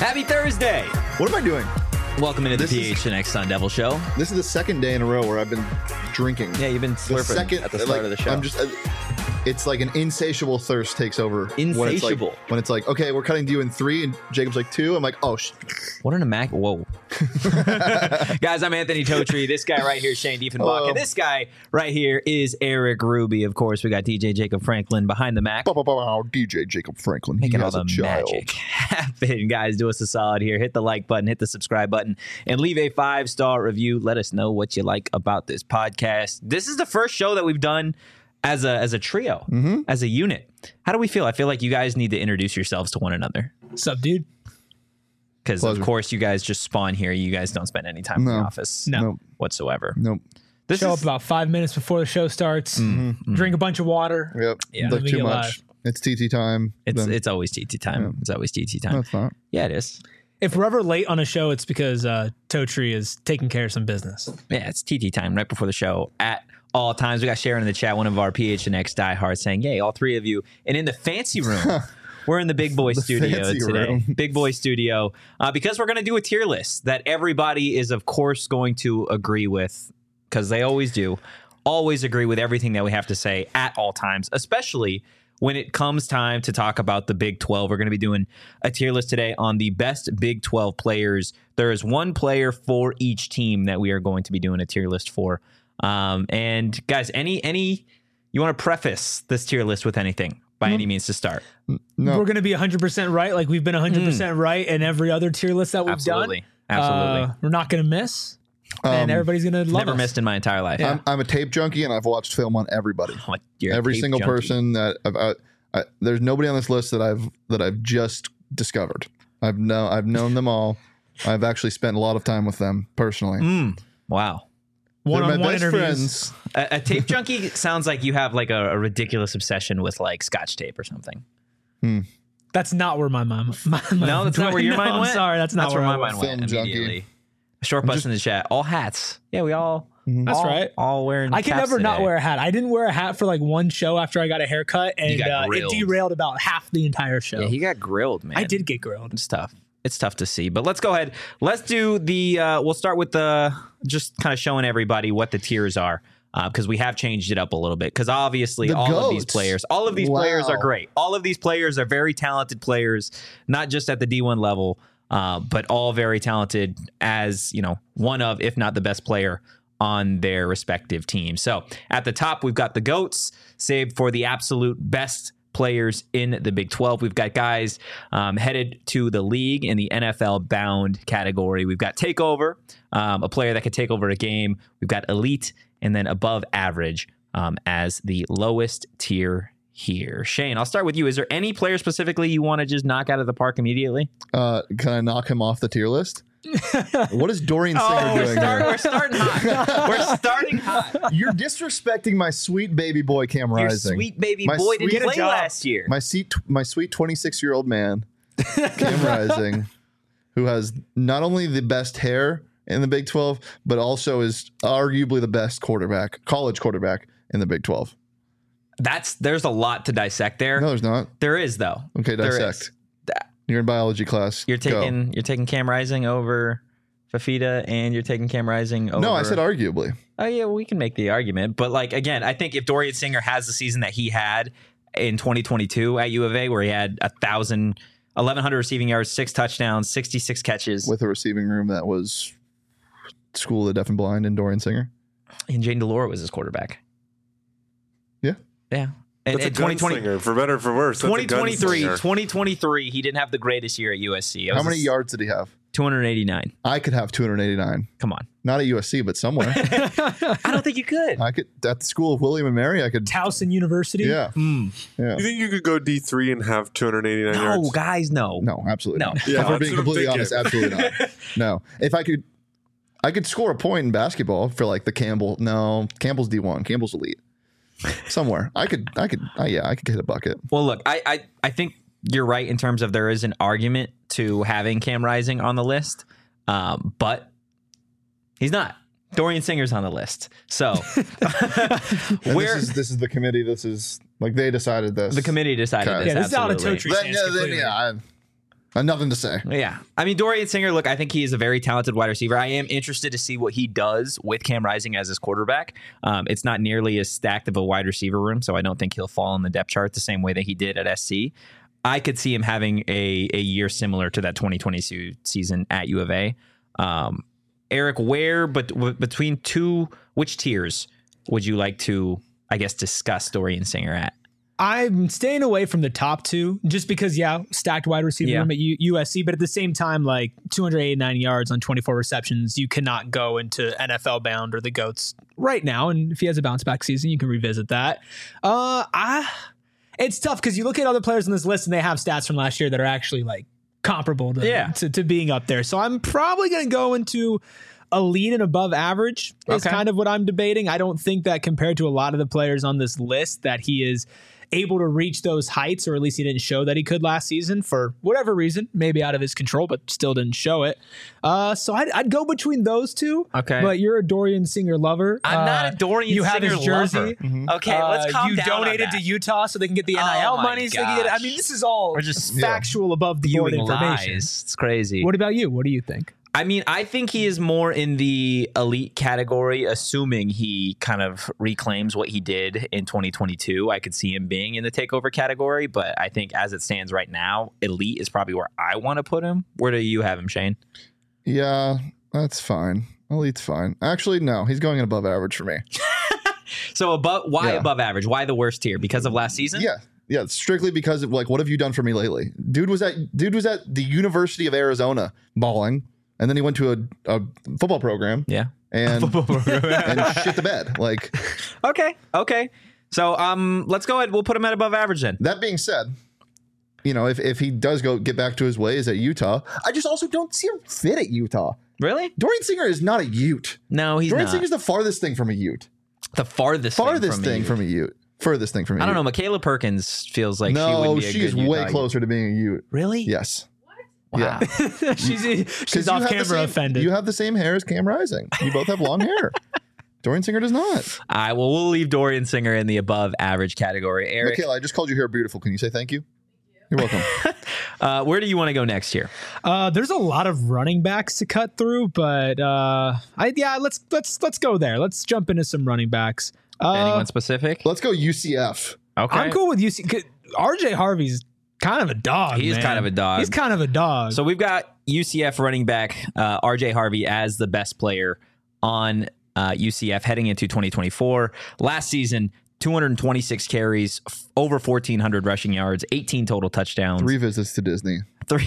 Happy Thursday. What am I doing? Welcome into the PHNX Sun Devil Show. This is the second day in a row where I've been drinking. Yeah, you've been slurping at the start of the show. It's like an insatiable thirst takes over. Insatiable. When it's like, okay, we're cutting to you in 3, and Jacob's like 2. I'm like, oh, what an whoa. Guys, I'm Anthony Totri. This guy right here is Shane Diefenbach. And this guy right here is Eric Ruby. Of course, we got DJ Jacob Franklin behind the Mac. DJ Jacob Franklin. Making all the magic happen. Guys, do us a solid here. Hit the like button, hit the subscribe button, and leave a 5-star review. Let us know what you like about this podcast. This is the first show that we've done as a trio, as a unit. How do we feel? I feel like you guys need to introduce yourselves to one another. What's up, dude? Because, of course, you guys just spawn here. You guys don't spend any time in the office whatsoever. Nope. Show up about 5 minutes before the show starts, drink a bunch of water. Yep. Yeah. Like too much. It's TT time. It's always TT time. Yeah. It's always TT time. No, it's not. Yeah, it is. If we're ever late on a show, it's because Totri is taking care of some business. Yeah, it's TT time right before the show at all times. We got Sharon in the chat, one of our PHNX diehards, saying, yay, all three of you. And in the fancy room, we're in the Big Boy studio today. Big Boy studio. Because we're going to do a tier list that everybody is, of course, going to agree with, because they always do. Always agree with everything that we have to say at all times, especially when it comes time to talk about the Big 12. We're going to be doing a tier list today on the best Big 12 players. There is one player for each team that we are going to be doing a tier list for. And guys, any you want to preface this tier list with anything by any means to start? No. We're going to be 100% right, like we've been 100% right in every other tier list that we've done. Absolutely. We're not going to miss, and everybody's going to love Never us. missed in my entire life. Yeah. I'm a tape junkie, and I've watched film on everybody. Every single person that there's nobody on this list that I've just discovered. I've known them all. I've actually spent a lot of time with them personally. Wow. One-on-one my best interviews. friends. A tape junkie sounds like you have like a ridiculous obsession with like Scotch tape or something. That's not where my mind. No, that's not where your mind went. I'm sorry, that's not where my went. mind went Film immediately. junkie. Short bus in the chat. All hats. Yeah, we all. That's right. All wearing. I can caps never not today. wear a hat. I didn't wear a hat for like one show after I got a haircut, and got it grilled. derailed about half the entire show. Yeah, he got grilled, man. I did get grilled. It's tough. It's tough to see, but let's go ahead. Let's do the. We'll start with the just kind of showing everybody what the tiers are, because we have changed it up a little bit. Because obviously, all of these players are great. All of these players are very talented players, not just at the D1 level, but all very talented as one of, if not the best player on their respective teams. So at the top, we've got the GOATs, saved for the absolute best players in the Big 12. We've got guys headed to the league in the NFL bound category. We've got Takeover, a player that could take over a game. We've got Elite, and then above average as the lowest tier here. Shane, I'll start with you. Is there any player specifically you want to just knock out of the park immediately? Can I knock him off the tier list? What is Dorian Singer doing here? We're starting hot. We're starting hot. You're disrespecting my sweet baby boy, Cam Your Rising. sweet baby My boy sweet didn't play job. last year. My sweet 26-year-old man, Cam Rising, who has not only the best hair in the Big 12, but also is arguably the best college quarterback in the Big 12. There's a lot to dissect there. No, there's not. There is though. Okay, There dissect. is. You're in biology class. You're taking Cam Rising over Fafita, and you're taking Cam Rising over. No, I said arguably. Oh yeah, well, we can make the argument, but like again, I think if Dorian Singer has the season that he had in 2022 at U of A, where he had 1,100 receiving yards, 6 touchdowns, 66 catches, With a receiving room that was School of the Deaf and Blind and Dorian Singer. and Jane DeLore was his quarterback. Yeah. Yeah. And That's a 2020, for better or for worse. 2023, he didn't have the greatest year at USC. How many yards did he have? 289. I could have 289. Come on. Not at USC, but somewhere. I don't think you could. I could at the School of William and Mary. I could. Towson University. Yeah. Yeah. You think you could go D3 and have 289 yards? No, guys, no. No, absolutely No. not. Yeah, if we're that's being what I'm completely honest, thinking. absolutely not. No. If I could score a point in basketball for like the Campbell. No, Campbell's D1. Campbell's elite. Somewhere. I could hit a bucket. Well, look, I think you're right in terms of there is an argument to having Cam Rising on the list, but he's not. Dorian Singer's on the list. So this is the committee. This is like they decided this. the committee decided Okay. this. Yeah, this is not a absolutely. Totri stance completely. Nothing to say. Yeah. I mean, Dorian Singer, look, I think he is a very talented wide receiver. I am interested to see what he does with Cam Rising as his quarterback. It's not nearly as stacked of a wide receiver room, so I don't think he'll fall in the depth chart the same way that he did at SC. I could see him having a year similar to that 2022 season at U of A. Eric, between which tiers would you like to, I guess, discuss Dorian Singer at? I'm staying away from the top two just because, stacked wide receiver room at USC, but at the same time, like 289 yards on 24 receptions, you cannot go into NFL bound or the GOATs right now. And if he has a bounce back season, you can revisit that. It's tough because you look at other players on this list and they have stats from last year that are actually like comparable to being up there. So I'm probably going to go into elite and above average is kind of what I'm debating. I don't think that compared to a lot of the players on this list that he is able to reach those heights, or at least he didn't show that he could last season for whatever reason, maybe out of his control, but still didn't show it. So I'd go between those two. Okay. But you're a Dorian Singer lover. I'm not a Dorian Singer lover. You have his jersey. Mm-hmm. Okay, let's calm down. You donated to Utah so they can get the NIL money. So they can get, I mean, this is all just factual above the board information. Lies. It's crazy. What about you? What do you think? I mean, I think he is more in the elite category, assuming he kind of reclaims what he did in 2022. I could see him being in the takeover category, but I think as it stands right now, elite is probably where I want to put him. Where do you have him, Shane? Yeah, that's fine. Elite's fine. Actually, no, he's going above average for me. So why above average? Why the worst tier? Because of last season? Yeah. Yeah, strictly because of like, what have you done for me lately? Dude was at the University of Arizona balling. And then he went to a football program. Yeah. And shit the bed. Like, okay. So let's go ahead. We'll put him at above average then. That being said, if he does get back to his ways at Utah, I just also don't see him fit at Utah. Really? Dorian Singer is not a Ute. No, he's Dorian not. Singer is the farthest thing from a Ute. The farthest thing from a Ute. Furthest thing from a Ute. I don't know. Michaela Perkins feels like she would be a she's good way Utah closer to being a Ute. Really? Yes. Wow. Yeah. she's off camera offended. You have the same hair as Cam Rising. You both have long hair. Dorian Singer does not. All right, well, we'll leave Dorian Singer in the above average category. Eric. Michaela, I just called your hair beautiful. Can you say thank you? You're welcome. Where do you want to go next here? There's a lot of running backs to cut through, but let's go there. Let's jump into some running backs. Anyone specific? Let's go UCF. Okay. I'm cool with UCF. RJ Harvey's kind of a dog. He's kind of a dog. He's kind of a dog. So we've got UCF running back RJ Harvey as the best player on UCF heading into 2024. Last season, 226 carries, over 1,400 rushing yards, 18 total touchdowns. 3 visits to Disney.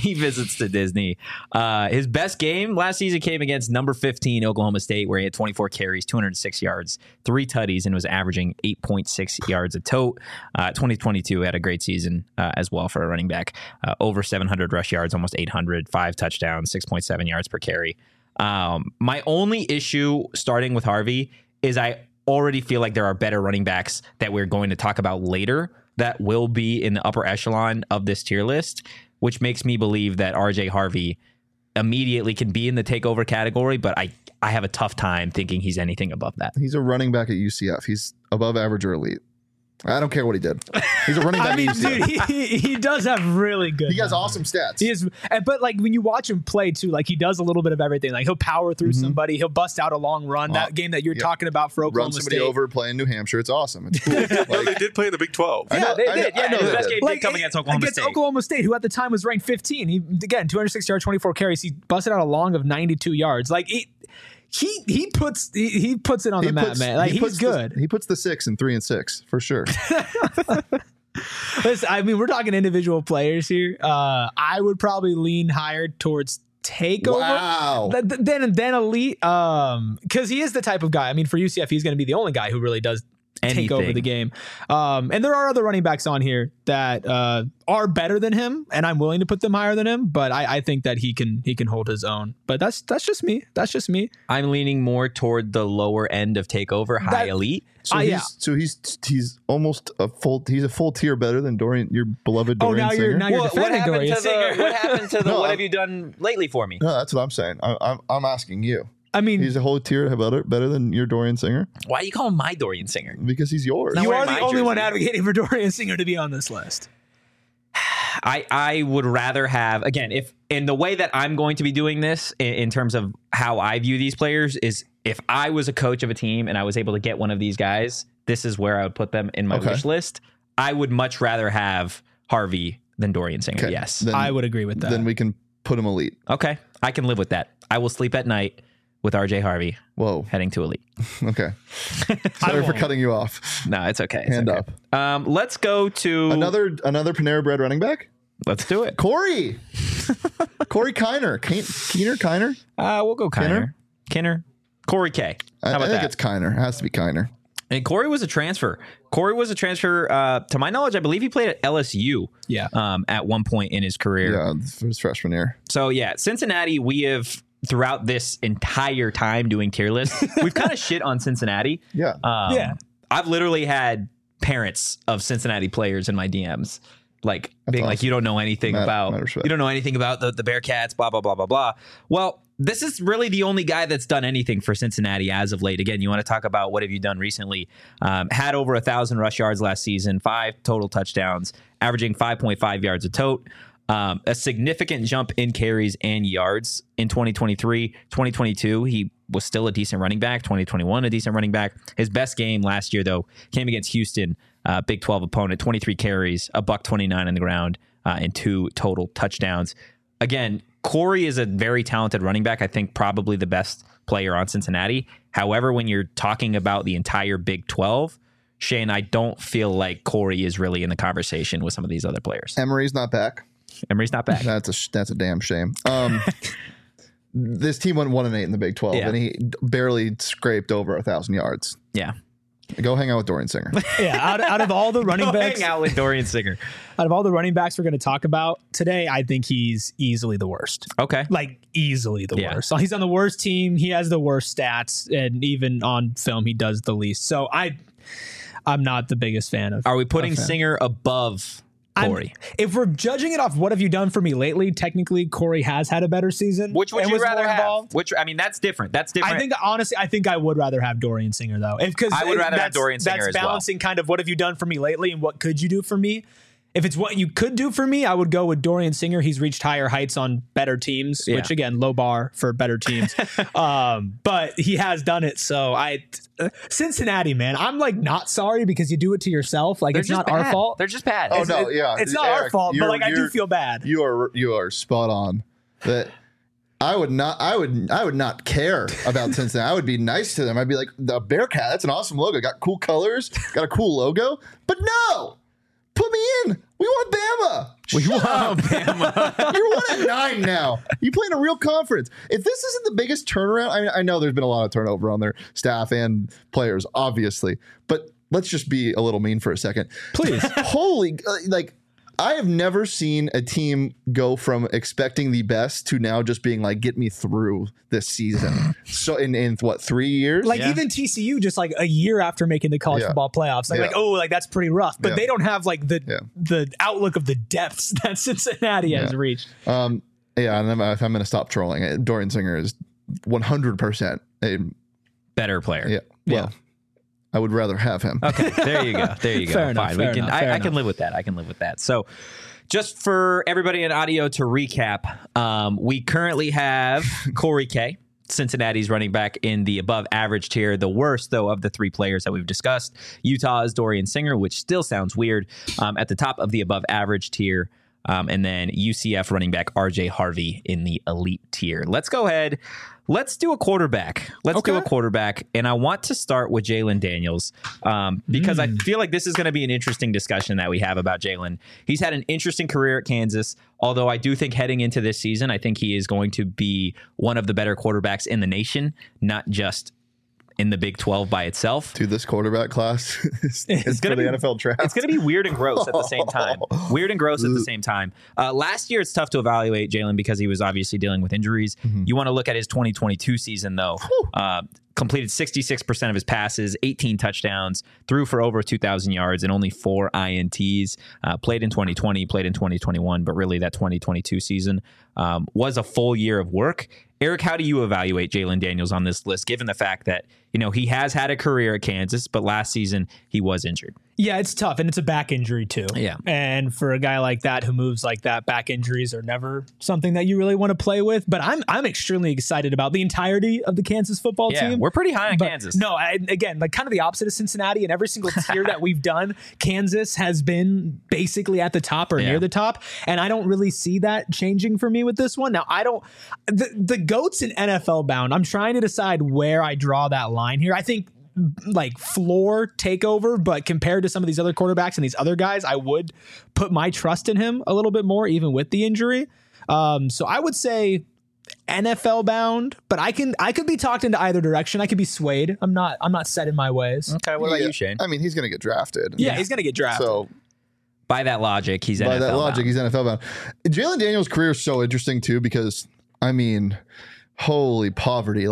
His best game last season came against number 15 Oklahoma State, where he had 24 carries, 206 yards, 3 tutties, and was averaging 8.6 yards a tote. 2022 had a great season as well for a running back. Over 700 rush yards, almost 800, 5 touchdowns, 6.7 yards per carry. My only issue starting with Harvey is I already feel like there are better running backs that we're going to talk about later that will be in the upper echelon of this tier list, which makes me believe that RJ Harvey immediately can be in the takeover category, but I have a tough time thinking he's anything above that. He's a running back at UCF. He's above average or elite. I don't care what he did. He's a running back. I mean, dude, he does have really good. He has awesome stats. He is, but like when you watch him play too, like he does a little bit of everything. Like he'll power through somebody. He'll bust out a long run. That game that you're talking about for Oklahoma Run somebody State. over, play in New Hampshire. It's awesome. It's cool. No, they did play in the Big 12. Yeah, they did. Yeah, his best game did come against Oklahoma State. Oklahoma State, who at the time was ranked 15. He again 206 yards, 24 carries. He busted out a long of 92 yards. Like he puts it on the map, man. Like he's good. He puts the 6 and 3 and 6 for sure. Listen, I mean, we're talking individual players here. I would probably lean higher towards takeover than elite, because he is the type of guy. I mean, for UCF, he's going to be the only guy who really does take over the game. And there are other running backs on here that are better than him, and I'm willing to put them higher than him. But I think that he can hold his own. But that's just me. That's just me. I'm leaning more toward the lower end of takeover, high elite. So he's almost a full tier better than Dorian, your beloved Dorian Singer. Now you're defending Dorian Singer. What happened to the what have you done lately for me? No, that's what I'm saying. I'm asking you. I mean, he's a whole tier better than your Dorian Singer. Why do you call him my Dorian Singer? Because he's yours. You are the only one advocating for Dorian Singer to be on this list. I would rather have, again, if in the way that I'm going to be doing this in terms of how I view these players is if I was a coach of a team and I was able to get one of these guys, this is where I would put them in my wish list. I would much rather have Harvey than Dorian Singer. Okay. Yes. Then, I would agree with that. Then we can put him elite. Okay. I can live with that. I will sleep at night with RJ Harvey. Whoa. Heading to elite. Okay. Sorry for cutting you off. No, it's okay. Hand up. Let's go to another Panera Bread running back. Let's do it. Corey Kiner. Kiner? We'll go Kiner. Corey K. I think it's Kiner. It has to be Kiner. And Corey was a transfer. To my knowledge, I believe he played at LSU. Yeah. At one point in his career. Yeah, for his freshman year. So yeah, Cincinnati, we have throughout this entire time doing tier lists, we've kind of shit on Cincinnati. Yeah. I've literally had parents of Cincinnati players in my DMs. Like being awesome. Like, you don't know anything about the Bearcats, blah, blah, blah, blah, blah. Well, this is really the only guy that's done anything for Cincinnati as of late. Again, you want to talk about what have you done recently? Had over 1,000 rush yards last season, 5 total touchdowns, averaging 5.5 yards a tote. A significant jump in carries and yards in 2023. 2022, he was still a decent running back. 2021, a decent running back. His best game last year, though, came against Houston, Big 12 opponent. 23 carries, $129 on the ground, and 2 total touchdowns. Again, Corey is a very talented running back. I think probably the best player on Cincinnati. However, when you're talking about the entire Big 12, Shane, I don't feel like Corey is really in the conversation with some of these other players. Emery's not back. That's a damn shame. This team went 1-8 in the Big 12, and he barely scraped over 1,000 yards. Yeah. Go hang out with Dorian Singer. Yeah, out of all the running backs, hang out with Dorian Singer. Out of all the running backs we're going to talk about today, I think he's easily the worst. Okay, like easily the worst. So he's on the worst team. He has the worst stats, and even on film, he does the least. So I'm not the biggest fan of. Are we putting Singer above Corey? If we're judging it off what have you done for me lately, technically Corey has had a better season. Which would you rather have? That's different. I think honestly, I would rather have Dorian Singer though. Because I would rather have Dorian Singer as well. That's balancing kind of what have you done for me lately and what could you do for me. If it's what you could do for me, I would go with Dorian Singer. He's reached higher heights on better teams, which again, low bar for better teams. But he has done it. So Cincinnati, man, I'm like not sorry because you do it to yourself. Like it's not our fault. They're just bad. Oh no, yeah, it's not our fault. But like I do feel bad. You are spot on. That I would not care about Cincinnati. I would be nice to them. I'd be like, the Bearcat, that's an awesome logo. Got cool colors. Got a cool logo. But no. Put me in. We want Bama. Bama. You're 1-9 now. You play in a real conference. If this isn't the biggest turnaround, I know there's been a lot of turnover on their staff and players, obviously. But let's just be a little mean for a second. Please. Holy, I have never seen a team go from expecting the best to now just being like, get me through this season. So in what, 3 years? Even TCU just like a year after making the college football playoffs, that's pretty rough. But they don't have like the outlook of the depths that Cincinnati has reached. And then if I'm going to stop trolling, Dorian Singer is 100% a better player. Yeah. I would rather have him. Okay, there you go. Fair enough, fine. I can live with that. So just for everybody in audio to recap, we currently have Corey K, Cincinnati's running back in the above average tier. The worst, though, of the 3 players that we've discussed. Utah is Dorian Singer, which still sounds weird, at the top of the above average tier. And then UCF running back RJ Harvey in the elite tier. Let's go ahead. Let's do a quarterback. And I want to start with Jalon Daniels because I feel like this is going to be an interesting discussion that we have about Jalon. He's had an interesting career at Kansas, although I do think heading into this season, I think he is going to be one of the better quarterbacks in the nation, not just in the Big 12 by itself. Dude, this quarterback class is going to be the NFL draft. It's going to be weird and gross at the same time. Last year, it's tough to evaluate Jalon because he was obviously dealing with injuries. Mm-hmm. You want to look at his 2022 season, though. Completed 66% of his passes, 18 touchdowns, threw for over 2,000 yards and only 4 INTs. Played in 2020, played in 2021, but really that 2022 season was a full year of work. Eric, how do you evaluate Jalon Daniels on this list, given the fact that, he has had a career at Kansas, but last season he was injured? Yeah, it's tough, and it's a back injury too. Yeah. And for a guy like that who moves like that, back injuries are never something that you really want to play with. But I'm extremely excited about the entirety of the Kansas football team. We're pretty high on Kansas. No, again, like kind of the opposite of Cincinnati. In every single tier that we've done, Kansas has been basically at the top or near the top. And I don't really see that changing for me with this one. Now, the GOATs in NFL bound, I'm trying to decide where I draw that line here. I think like floor takeover, but compared to some of these other quarterbacks and these other guys, I would put my trust in him a little bit more, even with the injury. So I would say NFL bound, but I could be talked into either direction. I could be swayed. I'm not set in my ways. Okay, what about you, Shane? I mean, he's going to get drafted. Yeah, he's going to get drafted. So by that logic, he's NFL bound. He's NFL bound. Jalon Daniels' career is so interesting too, because I mean, holy poverty.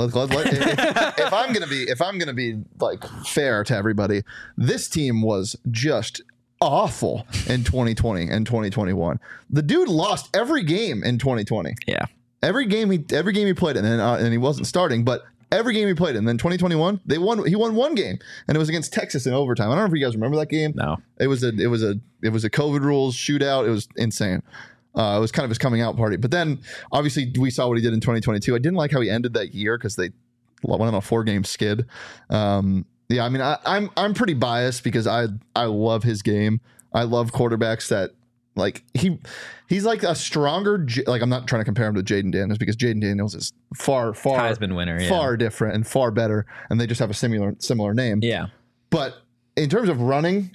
If I'm gonna be like fair to everybody, this team was just awful in 2020 and 2021. The dude lost every game in 2020. Yeah, every game he played, and he wasn't starting, but every game he played. And then 2021, he won one game, and it was against Texas in overtime. I don't know if you guys remember that game. No, it was a COVID rules shootout. It was insane. It was kind of his coming out party. But then, obviously, we saw what he did in 2022. I didn't like how he ended that year because they went on a 4-game skid. I mean, I'm pretty biased because I love his game. I love quarterbacks that, like, he's like a stronger, like, I'm not trying to compare him to Jayden Daniels because Jayden Daniels is far Heisman winner, far different and far better, and they just have a similar name. Yeah. But in terms of running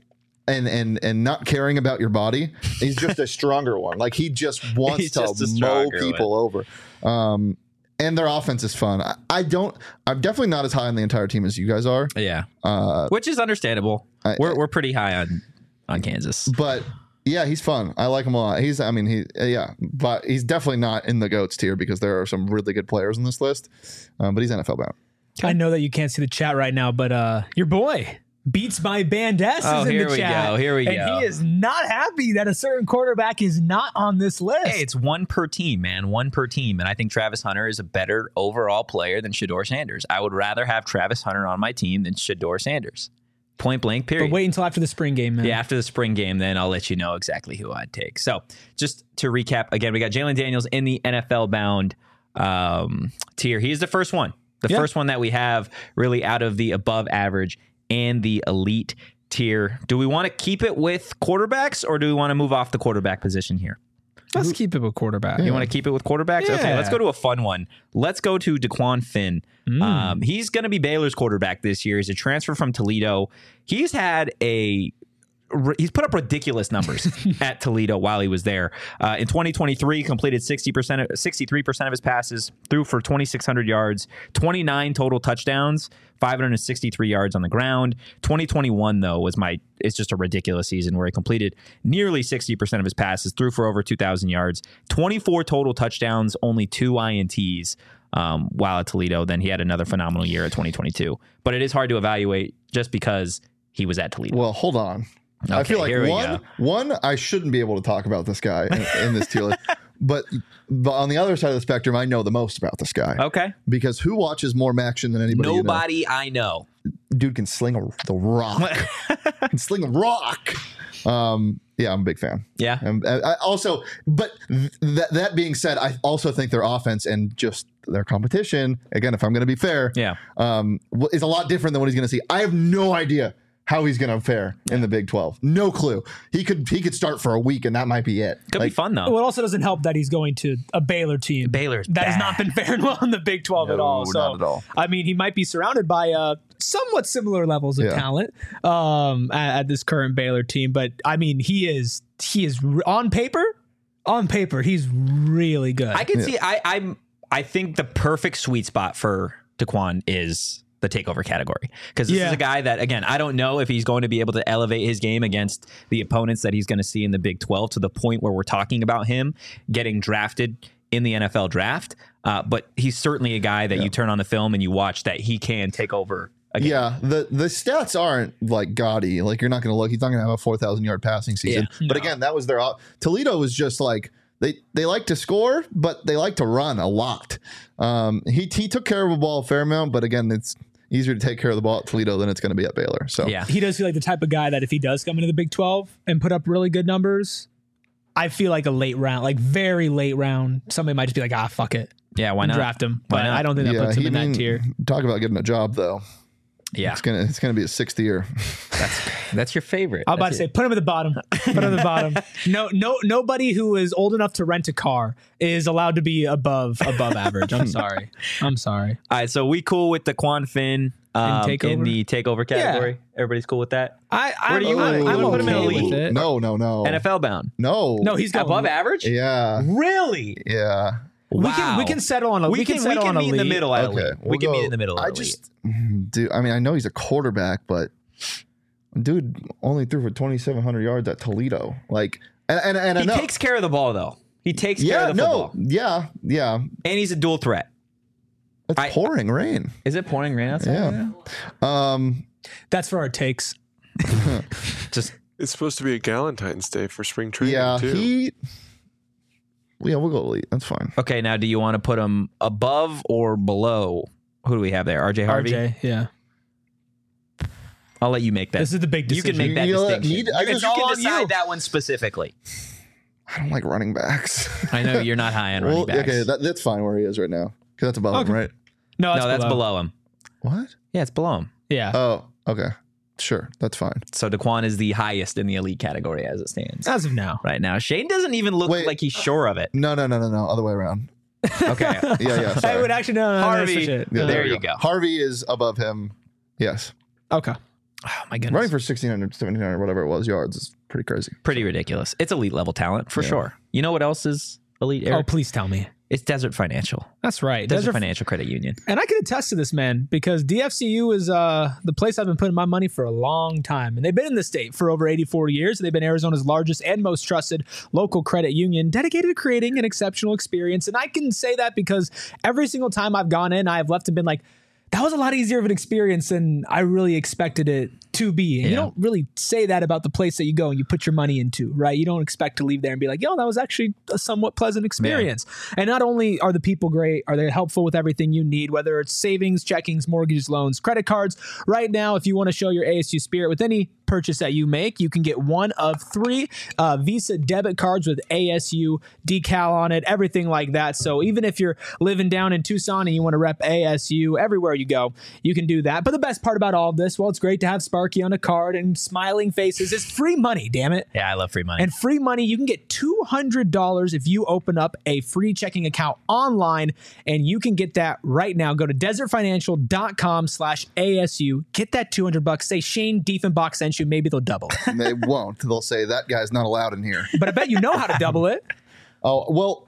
and not caring about your body, he's just a stronger one. Like, he just wants to mow people over. And their offense is fun. I'm definitely not as high on the entire team as you guys are. Yeah. Which is understandable. We're pretty high on Kansas. But yeah, he's fun. I like him a lot. But he's definitely not in the GOATs tier because there are some really good players in this list. But he's NFL bound. I know that you can't see the chat right now, but your boy Beats by Bandess is in the chat. Here we go. And he is not happy that a certain quarterback is not on this list. Hey, it's one per team, man. One per team. And I think Travis Hunter is a better overall player than Shedeur Sanders. I would rather have Travis Hunter on my team than Shedeur Sanders. Point blank, period. But wait until after the spring game, man. Yeah, after the spring game, then I'll let you know exactly who I'd take. So just to recap, again, we got Jalon Daniels in the NFL bound tier. He is the first one. First one that we have really out of the above average and the elite tier. Do we want to keep it with quarterbacks or do we want to move off the quarterback position here? Let's keep it with quarterback. You want to keep it with quarterbacks? Yeah. Okay, let's go to a fun one. Let's go to DeQuan Finn. He's going to be Baylor's quarterback this year. He's a transfer from Toledo. He's put up ridiculous numbers at Toledo while he was there. In 2023, completed 63% of his passes, threw for 2,600 yards, 29 total touchdowns, 563 yards on the ground. 2021, though, it's just a ridiculous season where he completed nearly 60% of his passes, threw for over 2,000 yards, 24 total touchdowns, only 2 INTs while at Toledo. Then he had another phenomenal year at 2022. But it is hard to evaluate just because he was at Toledo. Well, hold on. Okay, I feel like one, I shouldn't be able to talk about this guy in this tier list. But on the other side of the spectrum, I know the most about this guy. Okay. Because who watches more action than anybody? Nobody I know. Dude can sling the rock. Can sling a rock. Yeah, I'm a big fan. Yeah. I also, but that being said, I also think their offense and just their competition, again, if I'm going to be fair, is a lot different than what he's going to see. I have no idea how he's going to fare in the Big 12. No clue. He could start for a week and that might be it. Could be fun though. Well, it also doesn't help that he's going to a Baylor team. Baylor's that has not been faring well in the Big 12 at all. So, not at all. I mean, he might be surrounded by somewhat similar levels of talent at this current Baylor team, but I mean, he is on paper, he's really good. I can see. I think the perfect sweet spot for DeQuan is the takeover category, because this is a guy that, again, I don't know if he's going to be able to elevate his game against the opponents that he's going to see in the Big 12 to the point where we're talking about him getting drafted in the NFL draft. But he's certainly a guy that you turn on the film and you watch that he can take over again. Yeah, the stats aren't like gaudy. Like, you're not going to look. He's not going to have a 4,000 yard passing season. Yeah, but again, that was their Toledo was just like they like to score, but they like to run a lot. He took care of the ball a fair amount, but again, it's easier to take care of the ball at Toledo than it's going to be at Baylor. So yeah, he does feel like the type of guy that if he does come into the Big 12 and put up really good numbers, I feel like a late round, like very late round, somebody might just be like, fuck it. Yeah, why not draft him? But I don't think that puts him in that tier. Talk about getting a job though. Yeah, it's gonna be his 6th year. That's your favorite. I was about to say, put him at the bottom. Put him at the bottom. Nobody who is old enough to rent a car is allowed to be above average. I'm sorry. All right, so we cool with Daquan Finn in the takeover category. Yeah. Everybody's cool with that. Where do you want to put him in elite? No. NFL bound. No, he's going above average. Yeah. Really? Yeah. Wow. We can settle on a we can meet in the middle. Okay, we can meet in the middle. I mean, I know he's a quarterback, but dude only threw for 2,700 yards at Toledo. Like, and he takes care of the ball though. He takes care of the football. Yeah. And he's a dual threat. It's pouring rain. Is it pouring rain outside? Yeah. Right now? That's for our takes. It's supposed to be a Galentine's Day for spring training too. Yeah, we'll go elite. That's fine. Okay, now do you want to put him above or below? Who do we have there? RJ Harvey? RJ, yeah. I'll let you make that. This is the big decision. You can make that distinction. You can decide that one specifically. I don't like running backs. I know you're not high on running backs. Okay, that's fine where he is right now. Because that's above him, right? No, that's below him. What? Yeah, it's below him. Yeah. Oh, okay. Sure, that's fine. So Daquan is the highest in the elite category as it stands. As of now. Right now. Shane doesn't even look like he's sure of it. No. Other way around. Okay. Yeah. I would actually no. Harvey. Yeah, there you go. Harvey is above him. Yes. Okay. Oh my goodness. Running for 1,600, 1,700, whatever it was, yards is pretty crazy. Pretty ridiculous. It's elite level talent for sure. You know what else is elite, Eric? Oh, please tell me. It's Desert Financial. That's right. Desert Financial Credit Union. And I can attest to this, man, because DFCU is the place I've been putting my money for a long time. And they've been in the state for over 84 years. They've been Arizona's largest and most trusted local credit union dedicated to creating an exceptional experience. And I can say that because every single time I've gone in, I've left and been like, that was a lot easier of an experience than I really expected it to be. And you don't really say that about the place that you go and you put your money into, right? You don't expect to leave there and be like, yo, that was actually a somewhat pleasant experience. Yeah. And not only are the people great, are they helpful with everything you need, whether it's savings, checkings, mortgages, loans, credit cards. Right now, if you want to show your ASU spirit with any purchase that you make, you can get one of 3 Visa debit cards with ASU decal on it, everything like that. So even if you're living down in Tucson and you want to rep ASU everywhere you go, you can do that. But the best part about all of this, well, it's great to have Sparky on a card and smiling faces. It's free money, damn it. Yeah, I love free money. And free money, you can get $200 if you open up a free checking account online, and you can get that right now. Go to desertfinancial.com/ASU. Get that $200. Say Shane Diefenbach sent you. Maybe they'll double. They won't. They'll say that guy's not allowed in here. But I bet you know how to double it. Oh, well,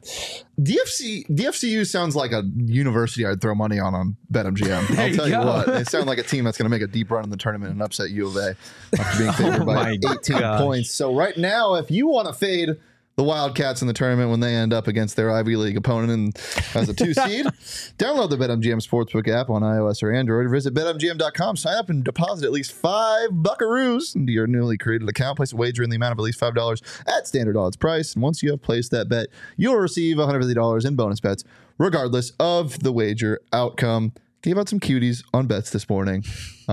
DFCU sounds like a university I'd throw money on BetMGM. I'll tell you what. They sound like a team that's going to make a deep run in the tournament and upset U of A after being favored by 18 points. So right now, if you want to fade the Wildcats in the tournament when they end up against their Ivy League opponent and as a 2 seed, download the BetMGM Sportsbook app on iOS or Android, or visit BetMGM.com, sign up and deposit at least $5 buckaroos into your newly created account. Place a wager in the amount of at least $5 at standard odds price. And once you have placed that bet, you'll receive $150 in bonus bets, regardless of the wager outcome. Gave out some cuties on bets this morning.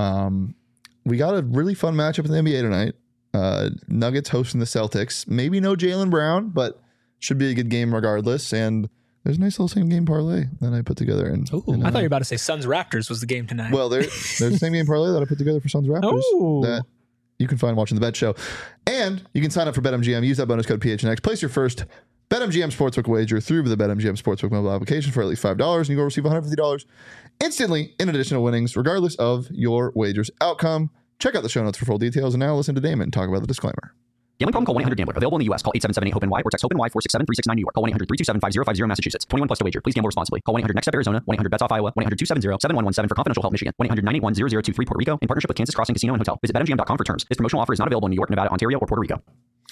We got a really fun matchup in the NBA tonight. Nuggets hosting the Celtics. Maybe no Jaylen Brown, but should be a good game regardless. And there's a nice little same game parlay that I put together. I thought you were about to say Suns Raptors was the game tonight. Well, there's the same game parlay that I put together for Suns Raptors that you can find watching the Bet Show. And you can sign up for BetMGM. Use that bonus code PHNX. Place your first BetMGM Sportsbook wager through the BetMGM Sportsbook mobile application for at least $5, and you will receive $150 instantly in additional winnings, regardless of your wager's outcome. Check out the show notes for full details, and now listen to Damon talk about the disclaimer. Gambling problem? Call 1-800-GAMBLER. Available in the U.S. Call 877-8-HOPE-NY or text HOPE-NY 467-369 New York. Call 1-800-327-5050 Massachusetts. 21 plus to wager. Please gamble responsibly. Call 1-800-NEXT-STEP Arizona. 1-800-BETS-OFF Iowa. 1-800-270-7117 for confidential help Michigan. 1-800-981-0023 Puerto Rico in partnership with Kansas Crossing Casino and Hotel. Visit BetMGM.com for terms. This promotional offer is not available in New York, Nevada, Ontario, or Puerto Rico.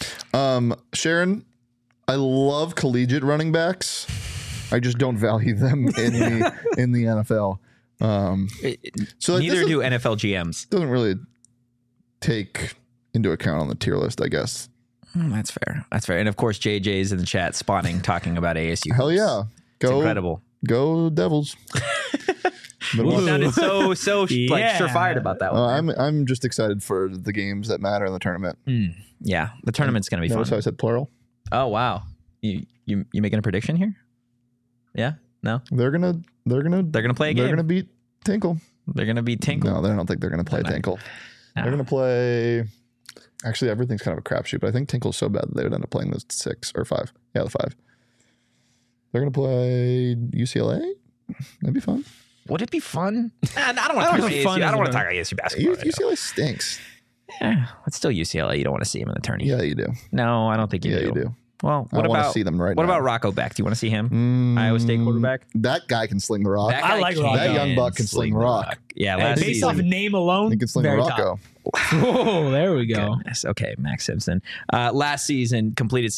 Sharon, I love collegiate running backs. I just don't value them in the NFL. So neither do NFL GMs. Doesn't really take into account on the tier list, I guess. That's fair. And of course, JJ's in the chat spawning, talking about ASU. Hell yeah. It's incredible. Go Devils. You sounded so like surefire about that one. I'm just excited for the games that matter in the tournament. Yeah, the tournament's going to be fun. So I said plural. Oh wow, you making a prediction here? Yeah, no. They're gonna play a game. They're gonna beat Tinkle. They're gonna beat Tinkle. No, I don't think they're gonna play Tinkle. No. They're gonna play. Actually, everything's kind of a crapshoot, but I think Tinkle's so bad that they would end up playing the 6 or 5. Yeah, the 5. They're gonna play UCLA. That'd be fun. Would it be fun? I don't want to talk about ASU. I don't want to talk about ASU basketball. UCLA stinks. Yeah, it's still UCLA. You don't want to see him in the tourney. Yeah, you do. No, I don't think you do. Yeah, you do. Well, what about see them right what now. about Rocco Beck? Do you want to see him? Iowa State quarterback. That guy can sling the rock. I like Rocco. That young buck can sling the rock. Yeah, based off name alone, he can sling the Rocco. Oh, there we go. Goodness. Okay, Max Simpson. Last season completed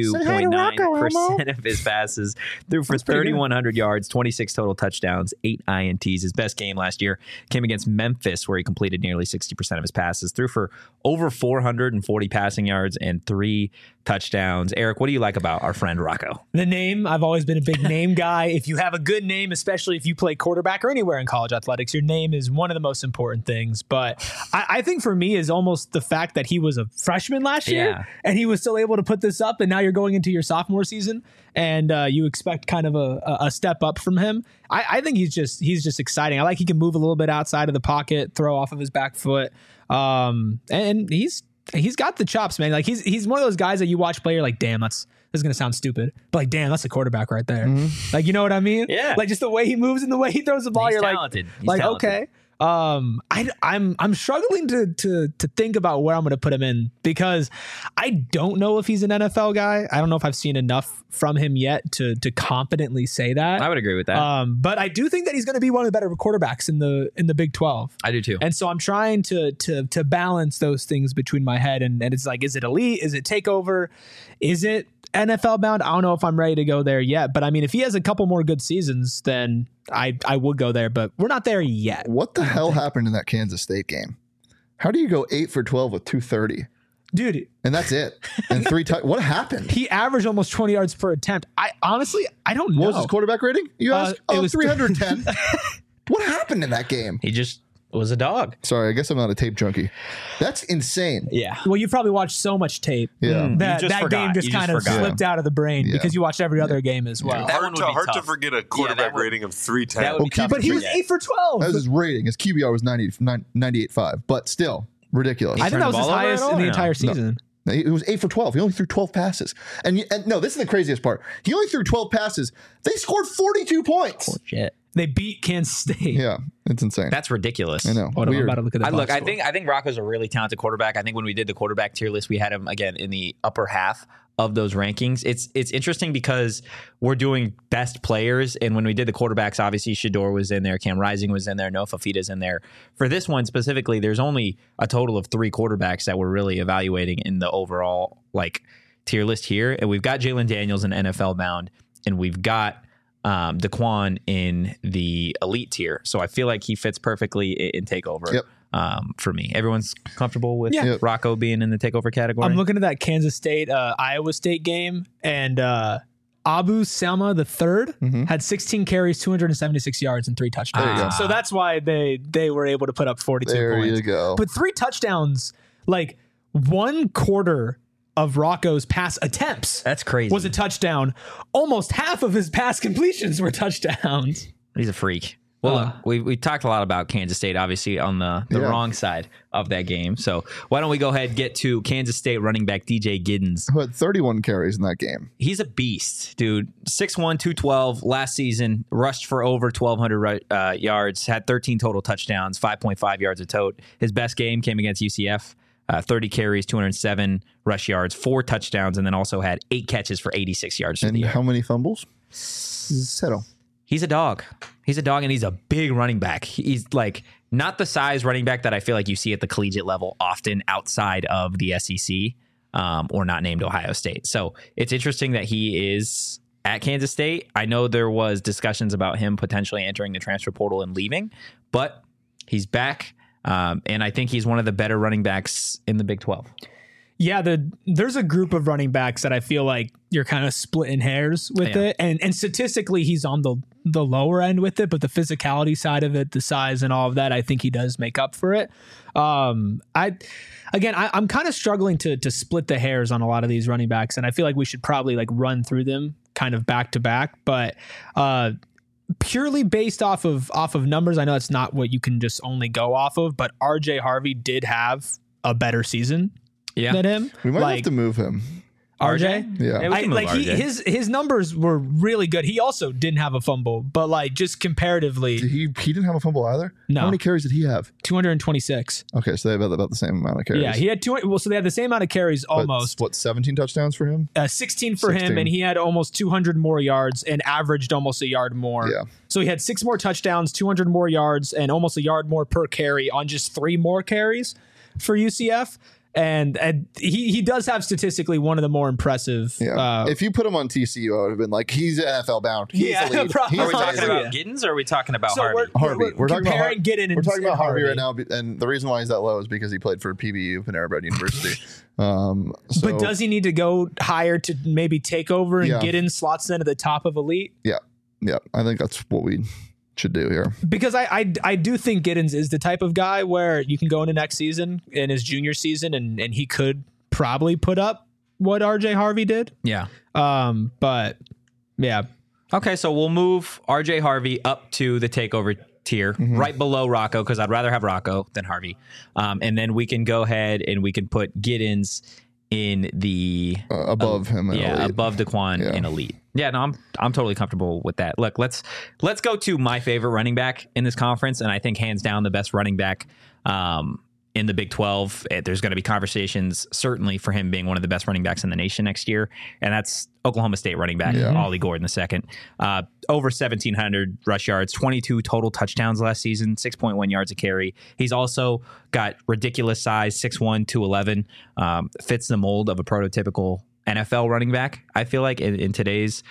62.9% of his passes, threw for 3,100 yards, 26 total touchdowns, 8 INTs. His best game last year came against Memphis, where he completed nearly 60% of his passes, threw for over 440 passing yards and 3 touchdowns. Eric, what do you like about our friend Rocco? The name. I've always been a big name guy. If you have a good name, especially if you play quarterback or anywhere in college athletics, your name is one of the most important things. But I think for me is almost the fact that he was a freshman last year and he was still able to put this up, and now you're going into your sophomore season and you expect kind of a step up from him. I think he's just exciting. I like he can move a little bit outside of the pocket, throw off of his back foot, and he's got the chops, man. Like he's one of those guys that you watch play, you're like, damn, this is gonna sound stupid, but like, damn, that's a quarterback right there. Like, you know what I mean? Yeah. Like just the way he moves and the way he throws the ball, he's you're talented. Like, okay. I'm struggling to think about where I'm going to put him in, because I don't know if he's an NFL guy. I don't know if I've seen enough from him yet to confidently say that. I would agree with that. But I do think that he's going to be one of the better quarterbacks in the Big 12. I do too. And so I'm trying to balance those things between my head, and it's like, is it elite? Is it takeover? Is it NFL bound? I don't know if I'm ready to go there yet, but I mean, if he has a couple more good seasons, then I would go there, but we're not there yet. What the hell happened in that Kansas State game? How do you go 8 for 12 with 230? Dude. And that's it. And 3 what happened? He averaged almost 20 yards per attempt. I don't know. What was his quarterback rating? You asked? It was 310. What happened in that game? He just was a dog. Sorry, I guess I'm not a tape junkie. That's insane. Yeah. Well, you've probably watched so much tape that game just kind of slipped out of the brain because you watched every other game as well. Yeah. Hard to forget a quarterback rating of 310. But he was 8 for 12. That was his rating. His QBR was 98.5, but still ridiculous. I think that was his highest in the entire season. No. It was 8 for 12. He only threw 12 passes. And no, this is the craziest part. He only threw 12 passes. They scored 42 points. Oh, shit. They beat Kansas State. Yeah, it's insane. That's ridiculous. I know. I'm about to look at that. I think Rocco's a really talented quarterback. I think when we did the quarterback tier list, we had him again in the upper half of those rankings. It's interesting because we're doing best players, and when we did the quarterbacks, obviously Shedeur was in there, Cam Rising was in there, Noah Fafita's in there. For this one specifically, there's only a total of 3 quarterbacks that we're really evaluating in the overall tier list here, and we've got Jalen Daniels in NFL bound, and we've got Daquan in the elite tier. So I feel like he fits perfectly in takeover. For me. Everyone's comfortable with Rocco being in the takeover category. I'm looking at that Kansas State Iowa State game, and Abu Selma the third had 16 carries, 276 yards, and 3 touchdowns. So that's why they were able to put up 42 points. There you go. But 3 touchdowns, like 1 quarter of Rocco's pass attempts. That's crazy. Was a touchdown. Almost half of his pass completions were touchdowns. He's a freak. Well, we talked a lot about Kansas State, obviously, on the wrong side of that game. So why don't we go ahead and get to Kansas State running back DJ Giddens. Who had 31 carries in that game. He's a beast, dude. 6'1", 212 last season, rushed for over 1,200 yards, had 13 total touchdowns, 5.5 yards a tote. His best game came against UCF. 30 carries, 207 rush yards, 4 touchdowns, and then also had 8 catches for 86 yards. And how many fumbles? 0. He's a dog. He's a dog, and he's a big running back. He's like not the size running back that I feel like you see at the collegiate level often outside of the SEC or not named Ohio State. So it's interesting that he is at Kansas State. I know there was discussions about him potentially entering the transfer portal and leaving, but he's back. And I think he's one of the better running backs in the Big 12. Yeah, there's a group of running backs that I feel like you're kind of splitting hairs with it. And statistically, he's on the lower end with it, but the physicality side of it, the size and all of that, I think he does make up for it. I'm kind of struggling to split the hairs on a lot of these running backs, and I feel like we should probably like run through them kind of back to back. But purely based off of numbers, I know it's not what you can just only go off of, but RJ Harvey did have a better season than him. We might have to move him. RJ? Yeah. His numbers were really good. He also didn't have a fumble, but like just comparatively. He didn't have a fumble either? No. How many carries did he have? 226. Okay, so they have about the same amount of carries. Yeah, he had so they had the same amount of carries almost. But, 17 touchdowns for him? 16 for him, and he had almost 200 more yards and averaged almost a yard more. Yeah. So he had 6 more touchdowns, 200 more yards, and almost a yard more per carry on just 3 more carries for UCF. And he does have statistically one of the more impressive. Yeah. If you put him on TCU, I would have been like, he's NFL bound. He's the lead. Are we talking about Giddens or are we talking about Harvey? We're talking about Giddens. We're talking about Harvey right now, and the reason why he's that low is because he played for PBU, Panera Bread University. But does he need to go higher to maybe take over and Giddens slots into the top of elite? Yeah. I think that's what we should do here, because I do think Giddens is the type of guy where you can go into next season in his junior season and he could probably put up what RJ Harvey did. Yeah. But yeah. Okay, so we'll move RJ Harvey up to the takeover tier, right below Rocco, because I'd rather have Rocco than Harvey. And then we can go ahead and we can put Giddens in the above him, above Daquan in elite. Yeah, no, I'm totally comfortable with that. Look, let's go to my favorite running back in this conference, and I think hands down the best running back in the Big 12. There's going to be conversations certainly for him being one of the best running backs in the nation next year, and that's Oklahoma State running back Ollie Gordon II. Over 1,700 rush yards, 22 total touchdowns last season, 6.1 yards a carry. He's also got ridiculous size, 6'1", 211, fits the mold of a prototypical NFL running back. I feel like in today's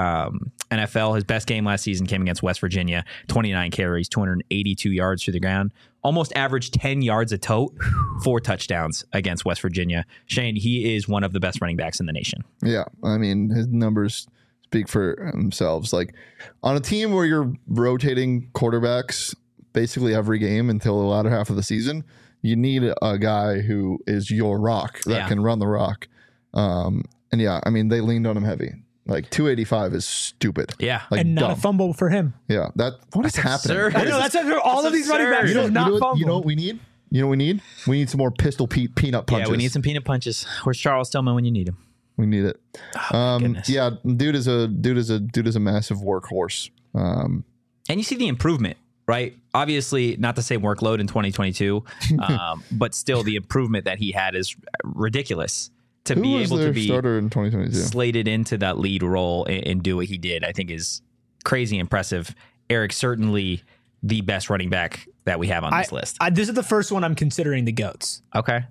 NFL, his best game last season came against West Virginia, 29 carries, 282 yards through the ground, almost averaged 10 yards a tote, 4 touchdowns against West Virginia. Shane, he is one of the best running backs in the nation. Yeah, I mean, his numbers speak for themselves. Like on a team where you're rotating quarterbacks basically every game until the latter half of the season, you need a guy who is your rock that can run the rock. And I mean, they leaned on him heavy. Like 285 is stupid. Yeah. Like and not dumb. A fumble for him. Yeah. What is happening? I know that's after all of these running backs. You know what we need? We need some more Pistol Pete peanut punches. Yeah, we need some peanut punches. Where's Charles Tillman when you need him? We need it. Goodness. Yeah, dude is a massive workhorse. And you see the improvement, right? Obviously, not the same workload in 2022, but still the improvement that he had is ridiculous. To Who be was able their to be starter in 2022? Slated into that lead role and do what he did, I think is crazy impressive. Eric, certainly the best running back that we have on this list. This is the first one I'm considering the GOATs. Okay.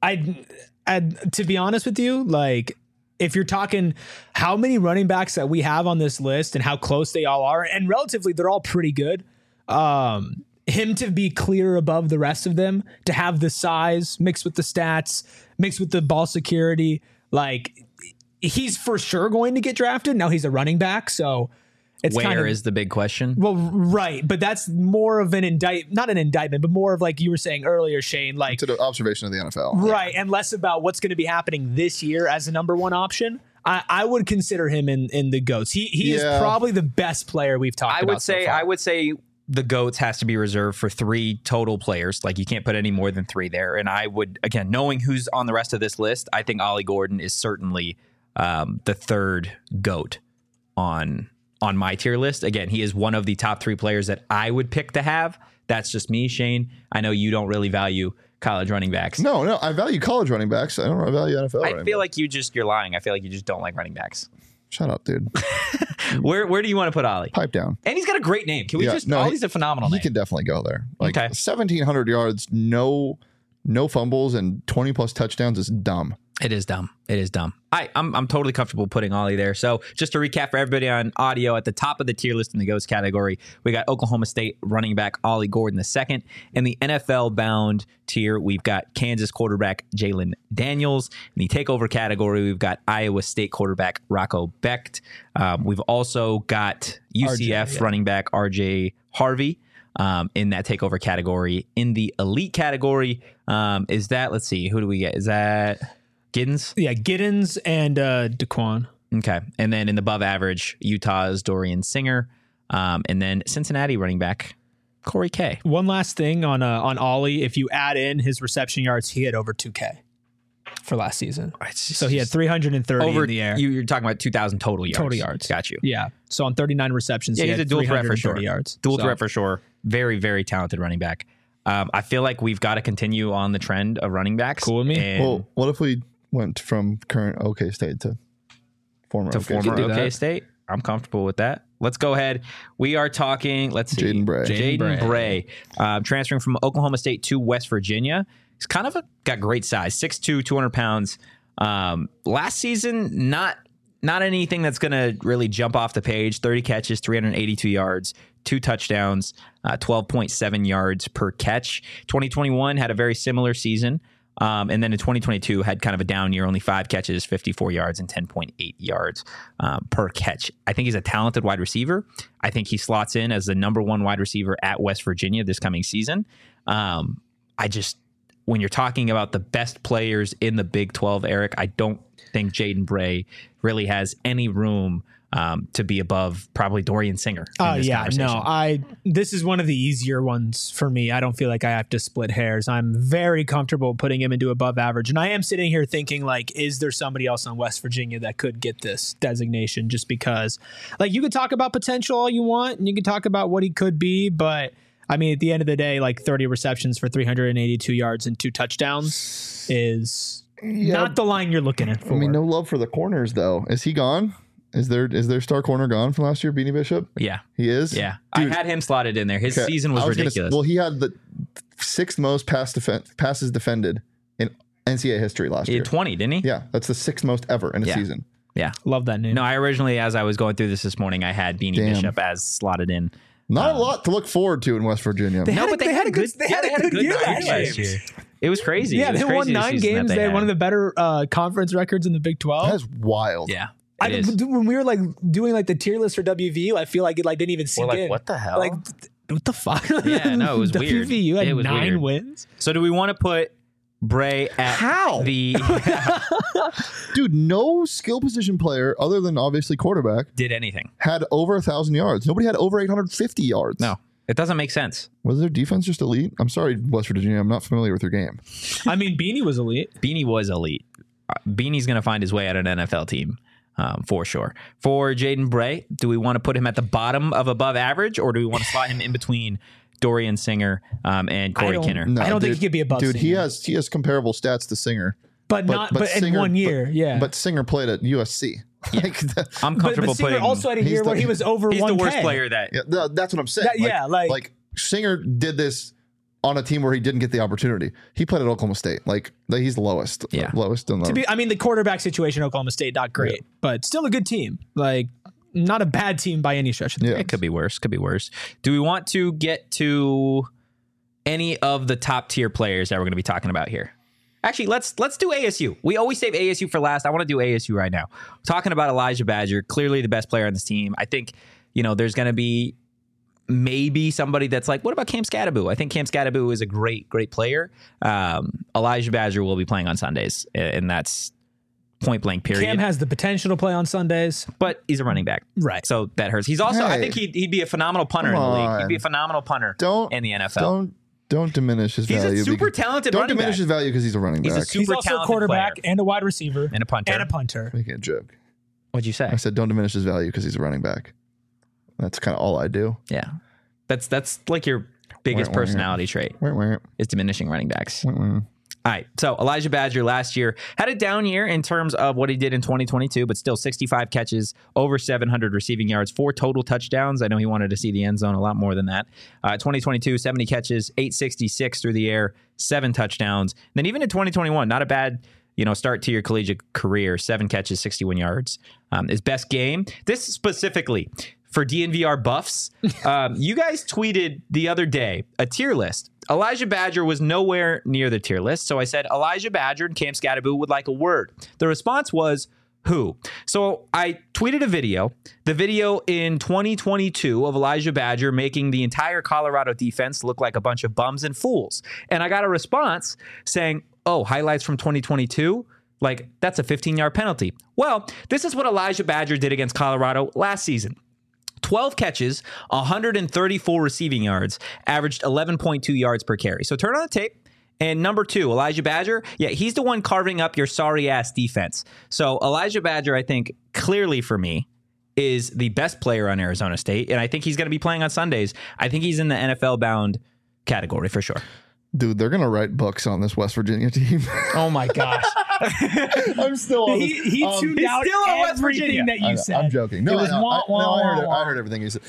To be honest with you, like if you're talking how many running backs that we have on this list and how close they all are, and relatively they're all pretty good. Him to be clear above the rest of them, to have the size mixed with the stats, mixed with the ball security, like he's for sure going to get drafted. Now he's a running back, so it's where is the big question? Well, right, but that's more of an not an indictment, but more of like you were saying earlier, Shane, like to the observation of the NFL, right, and less about what's going to be happening this year as a number one option. I would consider him in the GOATs. He is probably the best player we've talked about. I would say. The GOATs has to be reserved for 3 total players. Like you can't put any more than 3 there. And I would, again, knowing who's on the rest of this list, I think Ollie Gordon is certainly the third GOAT on my tier list. Again, he is one of the top 3 players that I would pick to have. That's just me, Shane. I know you don't really value college running backs. No, I value college running backs. I don't value NFL. I feel like you're lying. I feel like you just don't like running backs. Shut up, dude. Where do you want to put Ollie? Pipe down. And he's got a great name. Can we Ollie's a phenomenal name. He can definitely go there. Like 1,700 yards, no fumbles, and 20 plus touchdowns is dumb. It is dumb. It is dumb. I'm totally comfortable putting Ollie there. So just to recap for everybody on audio, at the top of the tier list in the GOATS category, we got Oklahoma State running back Ollie Gordon II. In the NFL bound tier, we've got Kansas quarterback Jalen Daniels. In the takeover category, we've got Iowa State quarterback Rocco Becht. We've also got UCF running back RJ Harvey. In that takeover category. In the elite category, is that, let's see, who do we get? Is that Giddens? Yeah, Giddens and DeQuan. Okay. And then in the above average, Utah's Dorian Singer. And then Cincinnati running back Corey K. One last thing on Ollie. If you add in his reception yards, he had over 2K for last season. So he had 330 in the air. You're talking about 2,000 total yards. Total yards. Got you. Yeah. So on 39 receptions, he he's had a dual threat for sure. yards. Dual threat for sure. Very, very talented running back. I feel like we've got to continue on the trend of running backs. Cool with me. Well, what if we went from current OK State to former OK State? I'm comfortable with that. Let's go ahead. We are talking, let's see. Jaden Bray. Transferring from Oklahoma State to West Virginia. He's kind of got great size, 6'2", 200 pounds. Last season, not anything that's going to really jump off the page. 30 catches, 382 yards, 2 touchdowns, 12.7 yards per catch. 2021 had a very similar season. And then in 2022 had kind of a down year, only 5 catches, 54 yards, and 10.8 yards per catch. I think he's a talented wide receiver. I think he slots in as the number 1 wide receiver at West Virginia this coming season. When you're talking about the best players in the Big 12, Eric, I don't think Jaden Bray really has any room to be above probably Dorian Singer. This is one of the easier ones for me. I don't feel like I have to split hairs. I'm very comfortable putting him into above average. And I am sitting here thinking, like, is there somebody else on West Virginia that could get this designation? Just because, like, you could talk about potential all you want, and you can talk about what he could be, but I mean, at the end of the day, like 30 receptions for 382 yards and 2 touchdowns is not the line you're looking at for. I mean, no love for the corners, though. Is he gone? Is their star corner gone from last year, Beanie Bishop? Yeah. He is? Yeah. Dude, I had him slotted in there. His season was ridiculous. He had the 6th most passes defended in NCAA history last year. He had 20, didn't he? Yeah. That's the 6th most ever in a season. Yeah. Love that name. No, I originally, as I was going through this morning, I had Beanie Bishop as slotted in. Not a lot to look forward to in West Virginia. They had a good year last year. It was crazy. Yeah, they won 9 games. They had one of the better conference records in the Big 12. That's wild. Yeah. When we were like doing like the tier list for WVU, I feel like it like didn't even sink in. What the hell? Like, what the fuck? Yeah, no, it was weird. WVU had 9 wins. So do we want to put Bray at Dude, no skill position player other than obviously quarterback did anything. Had over 1,000 yards. Nobody had over 850 yards. No, it doesn't make sense. Was their defense just elite? I'm sorry, West Virginia. I'm not familiar with your game. I mean, Beanie was elite. Beanie's going to find his way at an NFL team. For sure. For Jaden Bray, do we want to put him at the bottom of above average, or do we want to slot him in between Dorian Singer and Corey Kinner? No, I don't think he could be above Singer. He has comparable stats to Singer. But Singer, in 1 year, But Singer played at USC. Yeah. I'm comfortable Singer putting. Also had a year where he was over 1K. He's the worst player that. Yeah, that's what I'm saying. Like Singer did this on a team where he didn't get the opportunity. He played at Oklahoma State. Like he's the lowest. Yeah. Lowest in the. I mean, the quarterback situation at Oklahoma State, not great, but still a good team. Like, not a bad team by any stretch of the It could be worse. Do we want to get to any of the top tier players that we're going to be talking about here? Actually, let's do ASU. We always save ASU for last. I want to do ASU right now. Talking about Elijah Badger, clearly the best player on this team. I think, there's going to be maybe somebody that's like, what about Cam Skattebo? I think Cam Skattebo is a great player. Elijah Badger will be playing on Sundays, and that's point blank period. Cam has the potential to play on Sundays, but he's a running back. Right. So that hurts. He's also, I think he'd be a phenomenal punter in the league. He'd be a phenomenal punter in the NFL. Don't diminish his value. He's a super talented running back. Don't diminish his value because he's a running back. He's also a quarterback and a wide receiver. And a punter. Making a joke. What'd you say? I said don't diminish his value because he's a running back. That's kind of all I do. Yeah. That's like your biggest personality trait is diminishing running backs. All right. So Elijah Badger last year had a down year in terms of what he did in 2022, but still 65 catches, over 700 receiving yards, 4 total touchdowns. I know he wanted to see the end zone a lot more than that. 2022, 70 catches, 866 through the air, 7 touchdowns. And then even in 2021, not a bad start to your collegiate career, 7 catches, 61 yards. His best game. This specifically for DNVR buffs. You guys tweeted the other day a tier list. Elijah Badger was nowhere near the tier list. So I said, Elijah Badger and Cam Scatterbo would like a word. The response was, who? So I tweeted a video, the video in 2022 of Elijah Badger making the entire Colorado defense look like a bunch of bums and fools. And I got a response saying, oh, highlights from 2022? Like, that's a 15-yard penalty. Well, this is what Elijah Badger did against Colorado last season. 12 catches, 134 receiving yards, averaged 11.2 yards per carry. So turn on the tape. And number 2, Elijah Badger. Yeah, he's the one carving up your sorry-ass defense. So Elijah Badger, I think, clearly for me, is the best player on Arizona State. And I think he's going to be playing on Sundays. I think he's in the NFL-bound category for sure. Dude, they're going to write books on this West Virginia team. Oh, my gosh. I'm still on this. He tuned out still on West everything that you said. I'm joking. No, I heard everything he said.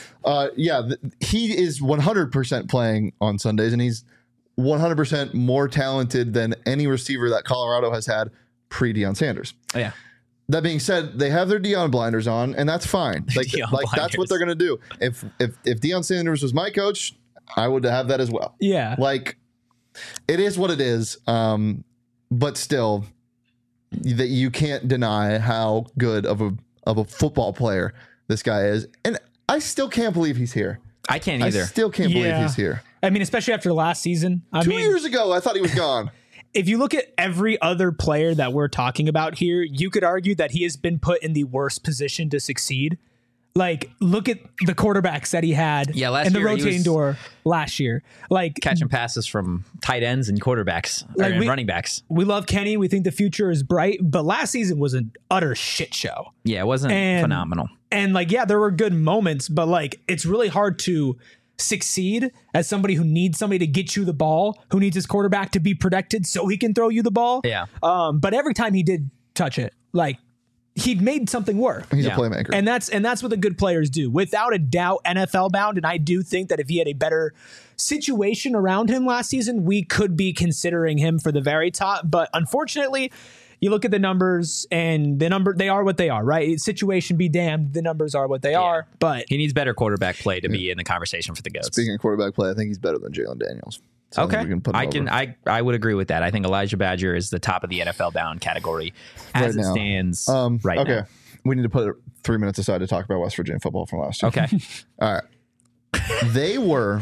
He is 100% playing on Sundays, and he's 100% more talented than any receiver that Colorado has had pre-Deion Sanders. Yeah. That being said, they have their Deion blinders on, and that's fine. Like that's what they're going to do. If Deion Sanders was my coach, I would have that as well. Yeah. Like, it is what it is. But still, that you can't deny how good of a football player this guy is. And I still can't believe he's here. I can't either. I still can't believe he's here. I mean, especially after last season. 2 years ago, I thought he was gone. If you look at every other player that we're talking about here, you could argue that he has been put in the worst position to succeed. Like, look at the quarterbacks that he had in the rotating door last year. Like, catching passes from tight ends and quarterbacks, and running backs. We love Kenny. We think the future is bright. But last season was an utter shit show. Yeah, it wasn't phenomenal. And, there were good moments. But, it's really hard to succeed as somebody who needs somebody to get you the ball, who needs his quarterback to be protected so he can throw you the ball. Yeah. But every time he did touch it, he made something work. He's a playmaker. And that's what the good players do. Without a doubt, NFL bound. And I do think that if he had a better situation around him last season, we could be considering him for the very top. But unfortunately, you look at the numbers and they are what they are, right? Situation be damned. The numbers are what they are, but he needs better quarterback play to be in the conversation for the Goats. Speaking of quarterback play, I think he's better than Jalen Daniels. So I would agree with that. I think Elijah Badger is the top of the NFL bound category as it stands right now. Okay. We need to put 3 minutes aside to talk about West Virginia football from last year. Okay. All right. They were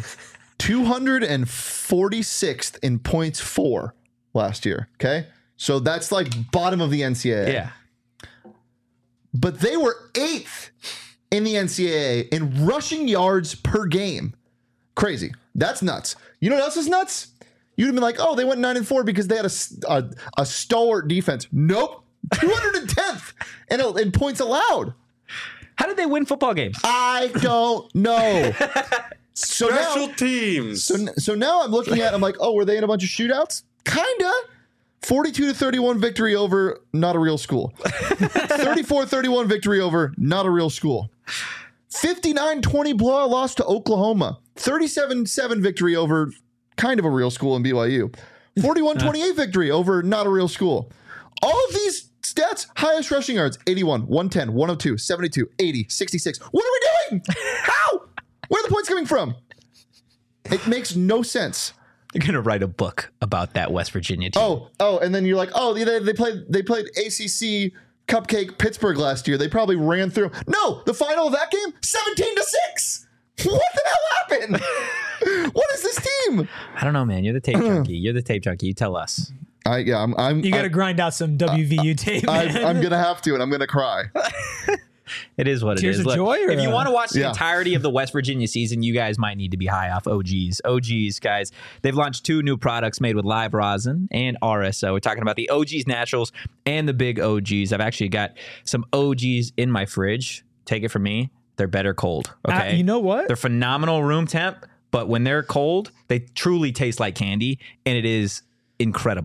246th in points for last year. Okay. So that's bottom of the NCAA. Yeah. But they were 8th in the NCAA in rushing yards per game. Crazy. That's nuts. You know what else is nuts? You'd have been like, oh, they went 9-4 because they had a stalwart defense. Nope. 210th in points allowed. How did they win football games? I don't know. Special teams. So now I'm looking at, I'm like, oh, were they in a bunch of shootouts? Kinda. 42-31 victory over not a real school. 34-31 victory over not a real school. 59-20 blowout loss to Oklahoma. 37-7 victory over kind of a real school in BYU. 41-28 victory over not a real school. All of these stats, highest rushing yards, 81, 110, 102, 72, 80, 66. What are we doing? How? Where are the points coming from? It makes no sense. You're going to write a book about that West Virginia team. Oh, and then you're like, oh, they played ACC Cupcake Pittsburgh last year. They probably ran through. No, the final of that game, 17-6. What the hell happened? What is this team? I don't know, man. You're the tape junkie. You tell us. You got to grind out some WVU tape. I'm gonna have to, and I'm gonna cry. It is what Tears it is. Of joy, if you want to watch the entirety of the West Virginia season, you guys might need to be high off OGs. OGs, guys, they've launched 2 new products made with live rosin and RSO. We're talking about the OGs Naturals and the Big OGs. I've actually got some OGs in my fridge. Take it from me. They're better cold. Okay. You know what? They're phenomenal room temp, but when they're cold, they truly taste like candy, and it is incredible.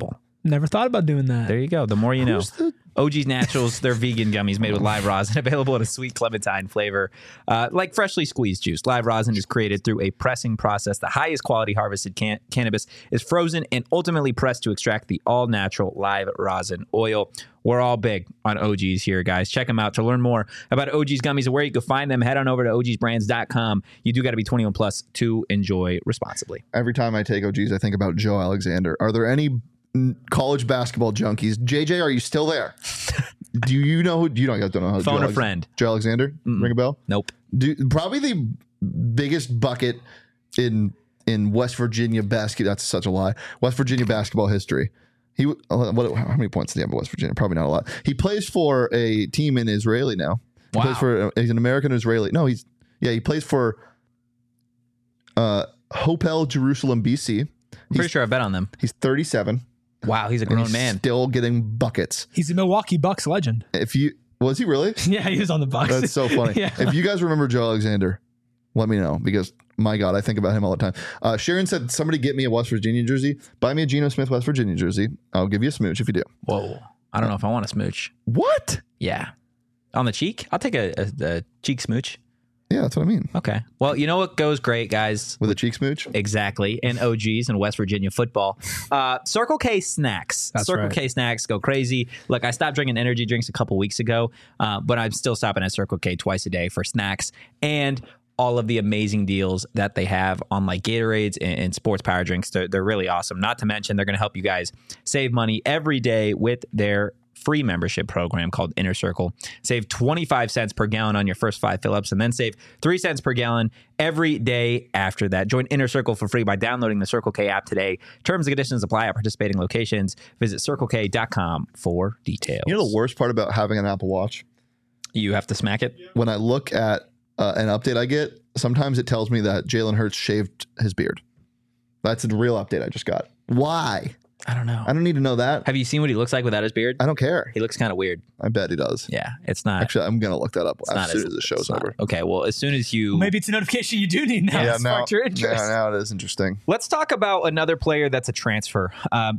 Never thought about doing that. There you go. The more you know. OG's Naturals, they're vegan gummies made with live rosin, available in a sweet clementine flavor. Like freshly squeezed juice, live rosin is created through a pressing process. The highest quality harvested cannabis is frozen and ultimately pressed to extract the all-natural live rosin oil. We're all big on OGs here, guys. Check them out. To learn more about OG's gummies and where you can find them, head on over to ogsbrands.com. You do got to be 21 plus to enjoy responsibly. Every time I take OGs, I think about Joe Alexander. Are there any college basketball junkies? JJ, are you still there? Do you know who? You don't know how. Phone a friend. Joe Alexander. Ring a bell? Nope. Probably the biggest bucket in West Virginia basketball. That's such a lie. West Virginia basketball history. How many points did he have in West Virginia? Probably not a lot. He plays for a team in Israeli now. He's an American Israeli. No, he plays for Hopel Jerusalem, BC. I'm pretty sure I bet on them. He's 37. Wow, he's a grown man. Still getting buckets. He's a Milwaukee Bucks legend. Was he really? Yeah, he was on the Bucks. That's so funny. Yeah. If you guys remember Joe Alexander, let me know, because my God, I think about him all the time. Sharon said, somebody get me a West Virginia jersey. Buy me a Geno Smith West Virginia jersey. I'll give you a smooch if you do. Whoa. I don't know if I want a smooch. What? Yeah. On the cheek? I'll take a cheek smooch. Yeah, that's what I mean. Okay. Well, you know what goes great, guys? With a cheek smooch? Exactly. And OGs and West Virginia football. Circle K snacks. Circle K snacks go crazy. Look, I stopped drinking energy drinks a couple weeks ago, but I'm still stopping at Circle K twice a day for snacks and all of the amazing deals that they have on like Gatorades and sports power drinks. They're really awesome. Not to mention, they're going to help you guys save money every day with their free membership program called Inner Circle. Save 25 cents per gallon on your first 5 fill-ups, and then save 3 cents per gallon every day after that. Join Inner Circle for free by downloading the Circle K app today. Terms and conditions apply at participating locations. Visit CircleK.com for details. You know the worst part about having an Apple Watch? You have to smack it? When I look at an update I get, sometimes it tells me that Jalen Hurts shaved his beard. That's a real update I just got. Why? I don't know. I don't need to know that. Have you seen what he looks like without his beard? I don't care. He looks kind of weird. I bet he does. Yeah, it's not. Actually, I'm going to look that up as soon as the show's over. Okay, well, as soon as you... Maybe it's a notification you do need now to spark your interest. Now it is interesting. Let's talk about another player that's a transfer.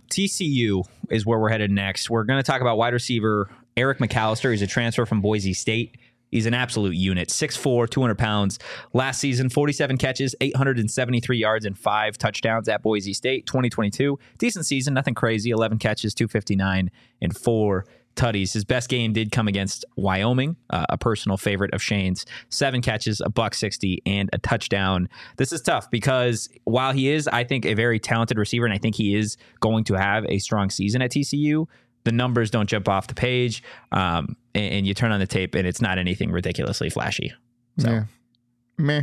TCU is where we're headed next. We're going to talk about wide receiver Eric McAllister. He's a transfer from Boise State. He's an absolute unit, 6'4", 200 pounds. Last season, 47 catches, 873 yards, and 5 touchdowns at Boise State. 2022, decent season, nothing crazy. 11 catches, 259, and 4 tutties. His best game did come against Wyoming, a personal favorite of Shane's. 7 catches, $160, and a touchdown. This is tough because while he is, I think, a very talented receiver, and I think he is going to have a strong season at TCU, the numbers don't jump off the page, and you turn on the tape, and it's not anything ridiculously flashy. So, meh.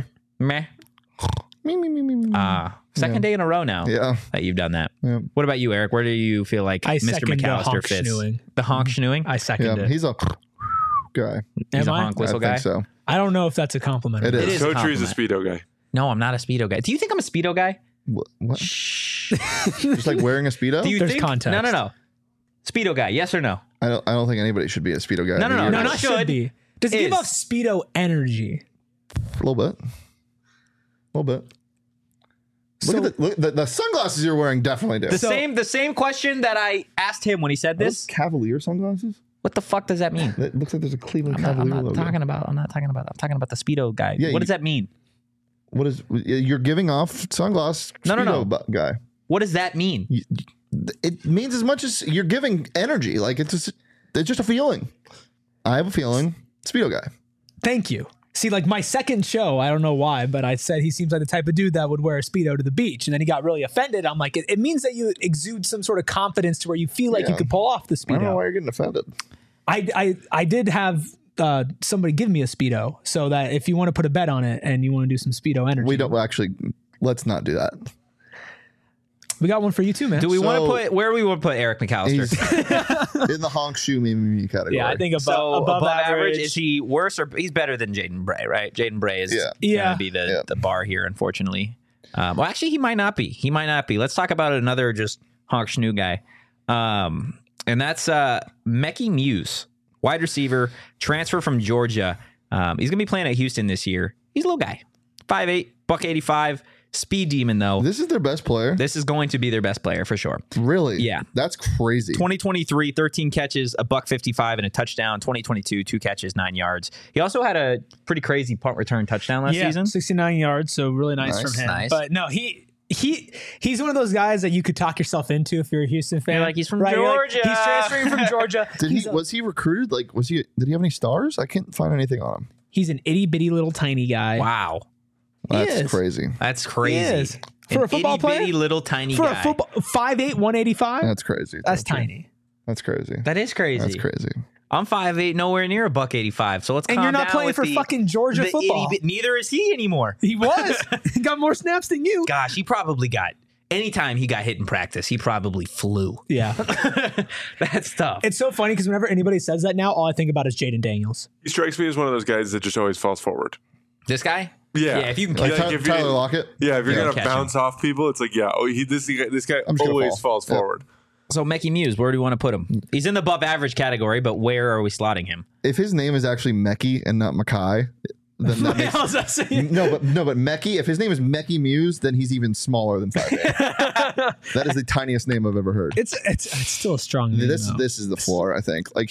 Second day in a row now that you've done that. Yeah. What about you, Eric? Where do you feel like Mr. McAllister fits? The honk schnooing? I second it. He's a guy. He's a honk whistle guy? I think so. I don't know if that's a compliment. It is. Coach is a Speedo guy. No, I'm not a Speedo guy. Do you think I'm a Speedo guy? What? Just like wearing a Speedo? There's context. No. Speedo guy, yes or no? I don't think anybody should be a Speedo guy. No, not should be. Does it give off Speedo energy? A little bit. Look at the sunglasses you're wearing. Definitely do. The same question that I asked him when he said this. Cavalier sunglasses. What the fuck does that mean? It looks like there's a Cleveland Cavalier logo. I'm not talking about. I'm talking about the Speedo guy. Yeah, what does that mean? What is you're giving off sunglass? Speedo guy. What does that mean? It means as much as you're giving energy. Like it's just a feeling. I have a feeling. Speedo guy. Thank you. See, like my second show, I don't know why, but I said he seems like the type of dude that would wear a Speedo to the beach. And then he got really offended. I'm like, it means that you exude some sort of confidence to where you feel like you could pull off the Speedo. I don't know why you're getting offended. I did have somebody give me a Speedo, so that if you want to put a bet on it and you want to do some Speedo energy. We don't actually, let's not do that. We got one for you too, man. Do we want to put, where do we want to put Eric McAllister? In the honk shoe meme category. Yeah, I think above average. Is he worse or he's better than Jaden Bray, right? Jaden Bray is going to be the bar here, unfortunately. Well, actually, he might not be. Let's talk about another just honk schnoo guy. And that's Mekhi Muse, wide receiver, transfer from Georgia. He's going to be playing at Houston this year. He's a little guy, 5'8", $185. Speed Demon, though. This is their best player. This is going to be their best player for sure. Really? Yeah. That's crazy. 2023, 13 catches, $155 and a touchdown. 2022, 2 catches, 9 yards. He also had a pretty crazy punt return touchdown last season. 69 yards, so really nice from him. Nice. But no, he's one of those guys that you could talk yourself into if you're a Houston fan. You're like, he's from Georgia. He's transferring from Georgia. Was he recruited? Like, did he have any stars? I can't find anything on him. He's an itty bitty little tiny guy. Wow. That's crazy. That's crazy. For a football player? Itty bitty little tiny guy. For a football 5'8", 185? That's crazy. That's tiny. That's crazy. That is crazy. That's crazy. I'm 5'8", nowhere near $185. So let's calm down. And you're not playing for fucking Georgia football. Neither is he anymore. He was. He got more snaps than you. Gosh, he probably got. Anytime he got hit in practice, he probably flew. Yeah. That's tough. It's so funny because whenever anybody says that now, all I think about is Jaden Daniels. He strikes me as one of those guys that just always falls forward. This guy? Yeah. If you can catch Tyler Lockett. Yeah, if you're going to bounce off people, it's like, this guy always falls forward. So Mecky Muse, where do you want to put him? He's in the above average category, but where are we slotting him? If his name is actually Mecky and not Mackay, then that makes but Mecky, if his name is Mecky Muse, then he's even smaller than 5'8". That is the tiniest name I've ever heard. It's still a strong name. This is the floor, I think. Like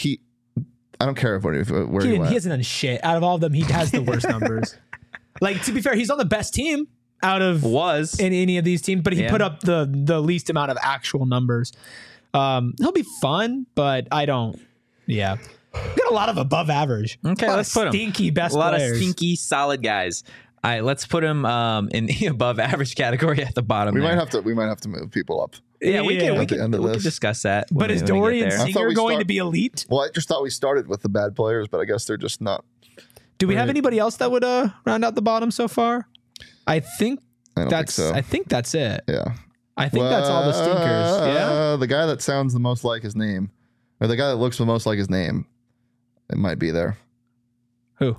I don't care where he went. He hasn't done shit. Out of all of them, he has the worst numbers. Like, to be fair, he's on the best team out of in any of these teams, but he put up the least amount of actual numbers. He'll be fun, but I don't. Yeah. Got a lot of above average. Okay, let's put him. Stinky best players. A lot of stinky, solid guys. All right, let's put him in the above average category at the bottom. We might have to move people up. Yeah, we can discuss that. But is Dorian Singer going to be elite? Well, I just thought we started with the bad players, but I guess they're just not. Do we have anybody else that would round out the bottom so far? I think that's it. Yeah. I think that's all the stinkers. Yeah. The guy that sounds the most like his name, or the guy that looks the most like his name, it might be there. Who?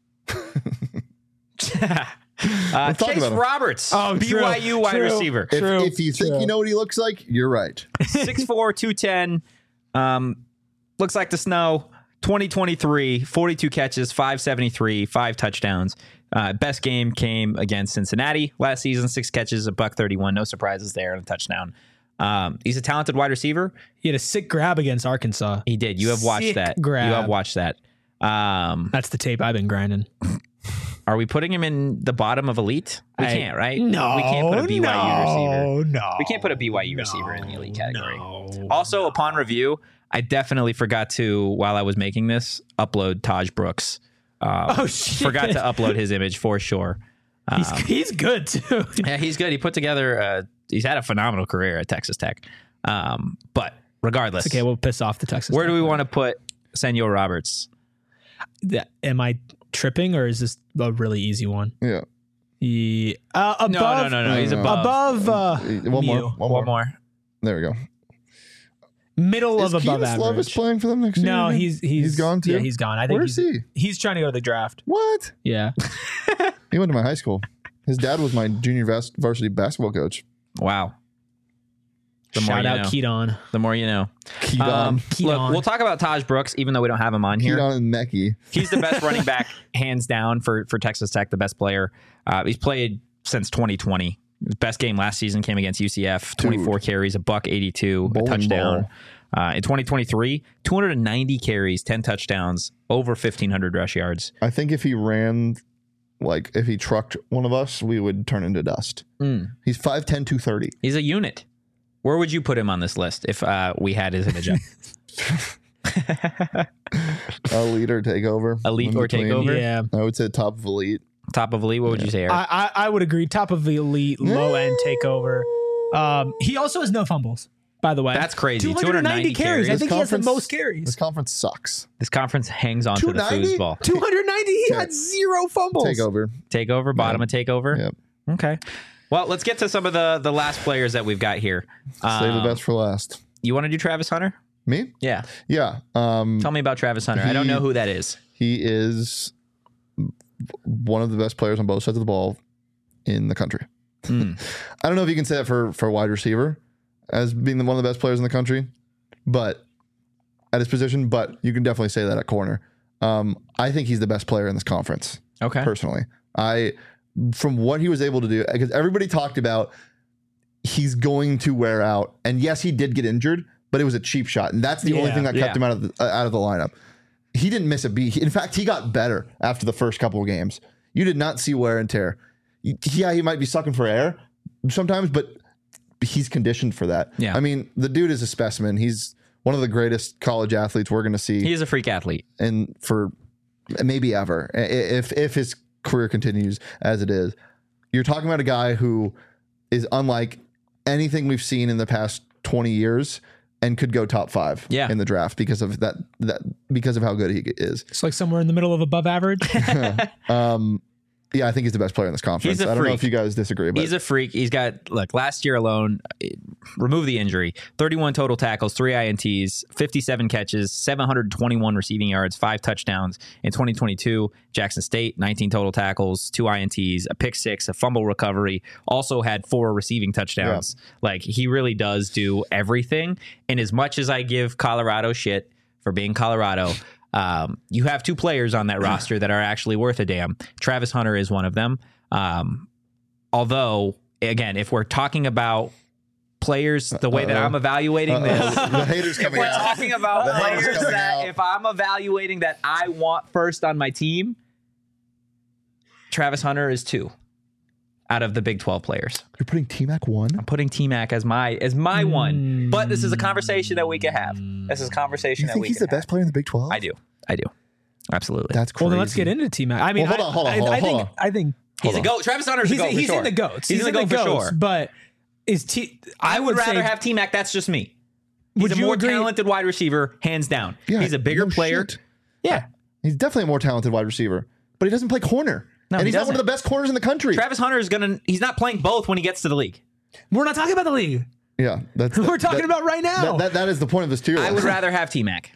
Chase Roberts, BYU wide receiver. If you think you know what he looks like, you're right. 6'4", 210. Looks like the snow. 2023, 42 catches, 573, 5 touchdowns. Best game came against Cincinnati last season. 6 catches, $131. No surprises there and a touchdown. He's a talented wide receiver. He had a sick grab against Arkansas. He did. You have watched that. Grab. You have watched that. That's the tape I've been grinding. Are we putting him in the bottom of elite? We can't, right? No. We can't put a BYU receiver. No. We can't put a BYU receiver in the elite category. Also, upon review, I definitely forgot to, while I was making this, upload Taj Brooks. Shit. Forgot to upload his image for sure. He's good too. Yeah, he's good. He put together, he's had a phenomenal career at Texas Tech. But regardless. It's okay, we'll piss off the Texas Where Tech do we want to put Senor Roberts? Am I tripping or is this a really easy one? Yeah. Above, no. He's above. One more. There we go. Middle of above Keenan average. Slovis playing for them next year? No, he's gone too. Yeah, he's gone. I think Where's he? He's trying to go to the draft. What? Yeah. He went to my high school. His dad was my junior varsity basketball coach. Wow. Shout out Keaton. The more you know. Keaton. Look, we'll talk about Taj Brooks, even though we don't have him on here. Keaton and Mecky. He's the best running back, hands down, for Texas Tech, the best player. He's played since 2020. His best game last season came against UCF. 24 carries, $182, a touchdown. In 2023, 290 carries, 10 touchdowns, over 1,500 rush yards. I think if he ran, like if he trucked one of us, we would turn into dust. He's 5'10", 230. He's a unit. Where would you put him on this list if we had his image up? Elite or takeover. Elite or takeover? Yeah. I would say top of elite. Top of elite? What would you say, Eric? I would agree. Top of the elite, low end takeover. He also has no fumbles, by the way. That's crazy. 290 carries. I think he has the most carries. This conference sucks. This conference hangs on to the foosball. 290? He had 0 fumbles. Takeover. Bottom of takeover? Yep. Okay. Well, let's get to some of the last players that we've got here. Save the best for last. You want to do Travis Hunter? Me? Yeah. Yeah. Tell me about Travis Hunter. I don't know who that is. He is one of the best players on both sides of the ball in the country. I don't know if you can say that for wide receiver as being one of the best players in the country, but at his position, but you can definitely say that at corner. I think he's the best player in this conference. Okay. Personally. from what he was able to do, because everybody talked about he's going to wear out, and yes, he did get injured, but it was a cheap shot, and that's the only thing that kept him out of the lineup. He didn't miss a beat. In fact, he got better after the first couple of games. You did not see wear and tear. Yeah, he might be sucking for air sometimes, but he's conditioned for that. Yeah. I mean, the dude is a specimen. He's one of the greatest college athletes we're going to see. He's a freak athlete. And for maybe ever, if his career continues as it is. You're talking about a guy who is unlike anything we've seen in the past 20 years and could go top 5 in the draft because of that because of how good he is. It's like somewhere in the middle of above average. Yeah, I think he's the best player in this conference. I don't know if you guys disagree, but he's a freak. He's got, look, last year alone, remove the injury, 31 total tackles, 3 INTs, 57 catches, 721 receiving yards, 5 touchdowns. In 2022, Jackson State, 19 total tackles, 2 INTs, a pick 6, a fumble recovery, also had 4 receiving touchdowns. Yeah. Like, he really does do everything. And as much as I give Colorado shit for being Colorado, you have 2 players on that roster that are actually worth a damn. Travis Hunter is one of them. Although, again, if we're talking about players, the way that I'm evaluating this, the haters coming out. Talking about players that if I'm evaluating that I want first on my team, Travis Hunter is 2 out of the Big 12 players. You're putting T-Mac 1? I'm putting T-Mac as my one. But this is a conversation that we can have. This is a conversation that we can have. You think he's the best player in the Big 12? I do. Absolutely. That's crazy. Well, then let's get into T-Mac. I mean, hold on. I think he's a GOAT. Travis Hunter's a GOAT for he's sure. in the GOATs. He's in the GOAT for sure. But I would rather have T-Mac. That's just me. He's a more talented wide receiver, hands down. Yeah, he's a bigger player. Shit. Yeah. He's definitely a more talented wide receiver, but he doesn't play corner. No, and he's not one of the best corners in the country. Travis Hunter he's not playing both when he gets to the league. We're not talking about the league. Yeah. We're talking about right now. That is the point of this tier list. I would rather have T-Mac.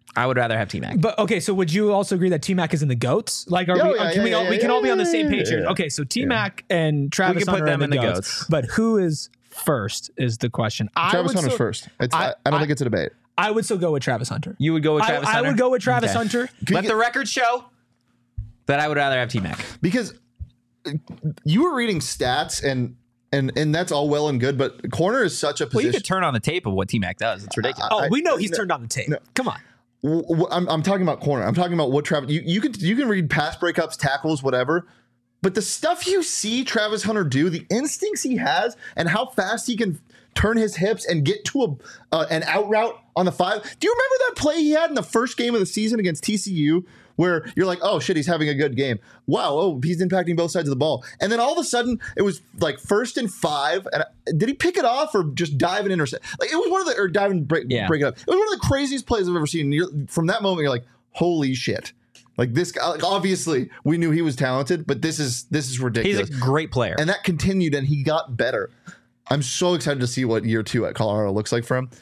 But okay, so would you also agree that T-Mac is in the GOATs? Like, we can all be on the same page here. Okay, so T-Mac and Travis Hunter are in the GOATs. But who is first is the question. Travis Hunter's first. I don't think it's a debate. I would still go with Travis Hunter. You would go with Travis Hunter? I would go with Travis Hunter. Let the record show that I would rather have T-Mac. Because you were reading stats and that's all well and good, but corner is such a position. Well, you could turn on the tape of what T-Mac does. It's ridiculous. We know he's turned on the tape. No. Come on. I'm talking about corner. I'm talking about what Travis. You can read pass breakups, tackles, whatever. But the stuff you see Travis Hunter do, the instincts he has, and how fast he can turn his hips and get to an out route on the 5. Do you remember that play he had in the first game of the season against TCU? Where you're like, oh shit, he's having a good game. Wow, he's impacting both sides of the ball. And then all of a sudden, it was like 1st and 5. And did he pick it off or just dive and intercept? Like, it was one of the dive and break it up. It was one of the craziest plays I've ever seen. From that moment, you're like, holy shit. Like, this guy, like, obviously we knew he was talented, but this is ridiculous. He's a great player. And that continued and he got better. I'm so excited to see what year 2 at Colorado looks like for him.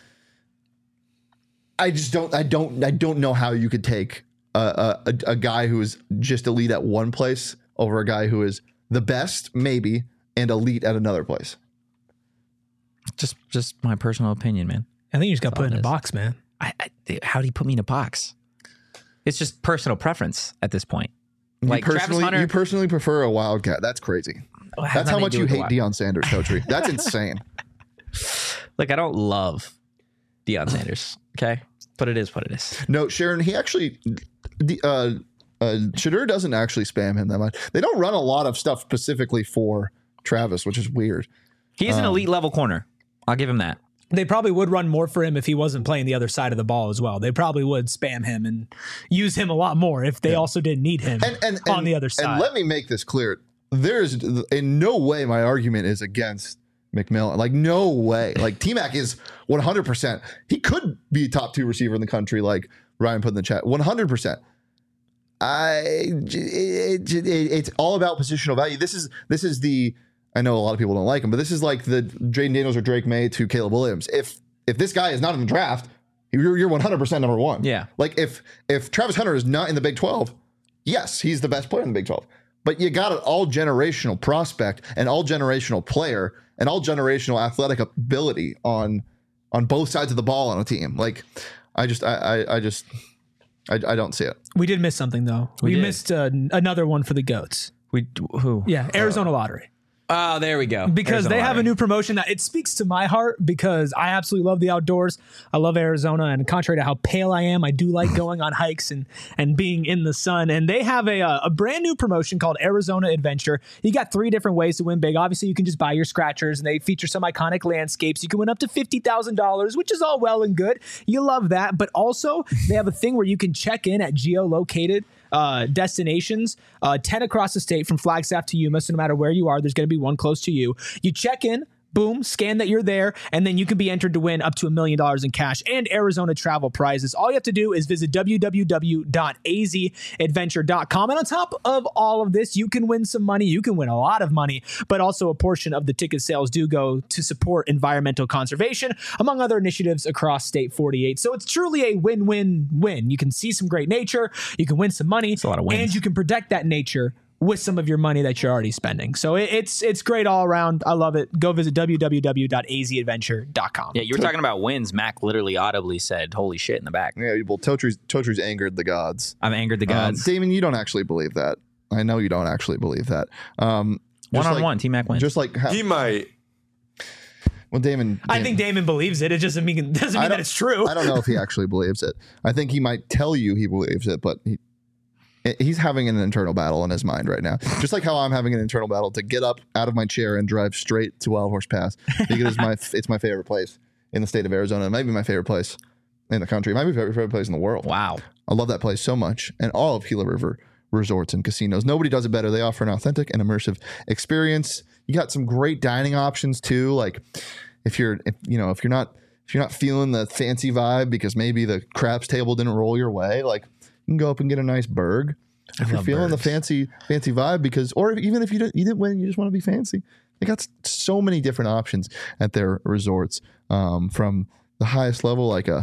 I don't know how you could take a guy who is just elite at one place over a guy who is the best, maybe, and elite at another place. Just my personal opinion, man. I think you just got put in a box, man. How do you put me in a box? It's just personal preference at this point. Like, Travis Hunter, you personally prefer a Wildcat. That's crazy. That's how much you hate Deion Sanders, Coach. That's insane. Like, I don't love Deion Sanders. Okay, but it is what it is. No, Sharon, he actually. Shedeur doesn't actually spam him that much. They don't run a lot of stuff specifically for Travis, which is weird. He's an elite level corner. I'll give him that. They probably would run more for him if he wasn't playing the other side of the ball as well. They probably would spam him and use him a lot more if they also didn't need him on the other side. And let me make this clear. There's in no way my argument is against McMillan. Like, no way. Like, T-Mac is 100%. He could be a top 2 receiver in the country, like Ryan put in the chat. 100%. It's all about positional value. This is the, I know a lot of people don't like him, but this is like the Jayden Daniels or Drake May to Caleb Williams. If this guy is not in the draft, you're 100% number 1. Yeah. Like, if Travis Hunter is not in the Big 12, yes, he's the best player in the Big 12. But you got an all generational prospect, an all generational player, an all generational athletic ability on both sides of the ball on a team. Like, I don't see it. We did miss something though. We missed another one for the GOATs. Who? Yeah, Arizona Lottery. Oh, there we go. Because Arizona they have Lottery. a new promotion that it speaks to my heart because I absolutely love the outdoors. I love Arizona, and contrary to how pale I am, I do like going on hikes and being in the sun. And they have a brand new promotion called Arizona Adventure. You got 3 different ways to win big. Obviously, you can just buy your scratchers, and they feature some iconic landscapes. You can win up to $50,000, which is all well and good. You love that. But also, they have a thing where you can check in at geolocated destinations, 10 across the state from Flagstaff to Yuma. So no matter where you are, there's going to be one close to you. You check in, boom, scan that you're there, and then you can be entered to win up to $1 million in cash and Arizona travel prizes. All you have to do is visit www.azadventure.com. And on top of all of this, you can win some money. You can win a lot of money, but also a portion of the ticket sales do go to support environmental conservation, among other initiatives across State 48. So it's truly a win-win-win. You can see some great nature, you can win some money, a lot of wins. And you can protect that nature with some of your money that you're already spending. So it's great all around. I love it. Go visit www.azadventure.com. Yeah, you were talking about wins. Mac literally audibly said, holy shit in the back. Yeah, well, Totru's angered the gods. I've angered the gods. Damon, you don't actually believe that. I know you don't actually believe that. One-on-one, T-Mac wins. Just like he might. Well, Damon, I think Damon believes it. It doesn't mean that it's true. I don't know if he actually believes it. I think he might tell you he believes it, but he's having an internal battle in his mind right now. Just like how I'm having an internal battle to get up out of my chair and drive straight to Wild Horse Pass because it's my favorite place in the state of Arizona. It might be my favorite place in the country. It might be my favorite place in the world. Wow. I love that place so much. And all of Gila River resorts and casinos. Nobody does it better. They offer an authentic and immersive experience. You got some great dining options too. Like if you're not feeling the fancy vibe because maybe the craps table didn't roll your way, like you can go up and get a nice burg. If you're feeling the fancy vibe, or even if you didn't win, you just want to be fancy. They got so many different options at their resorts, from the highest level, like a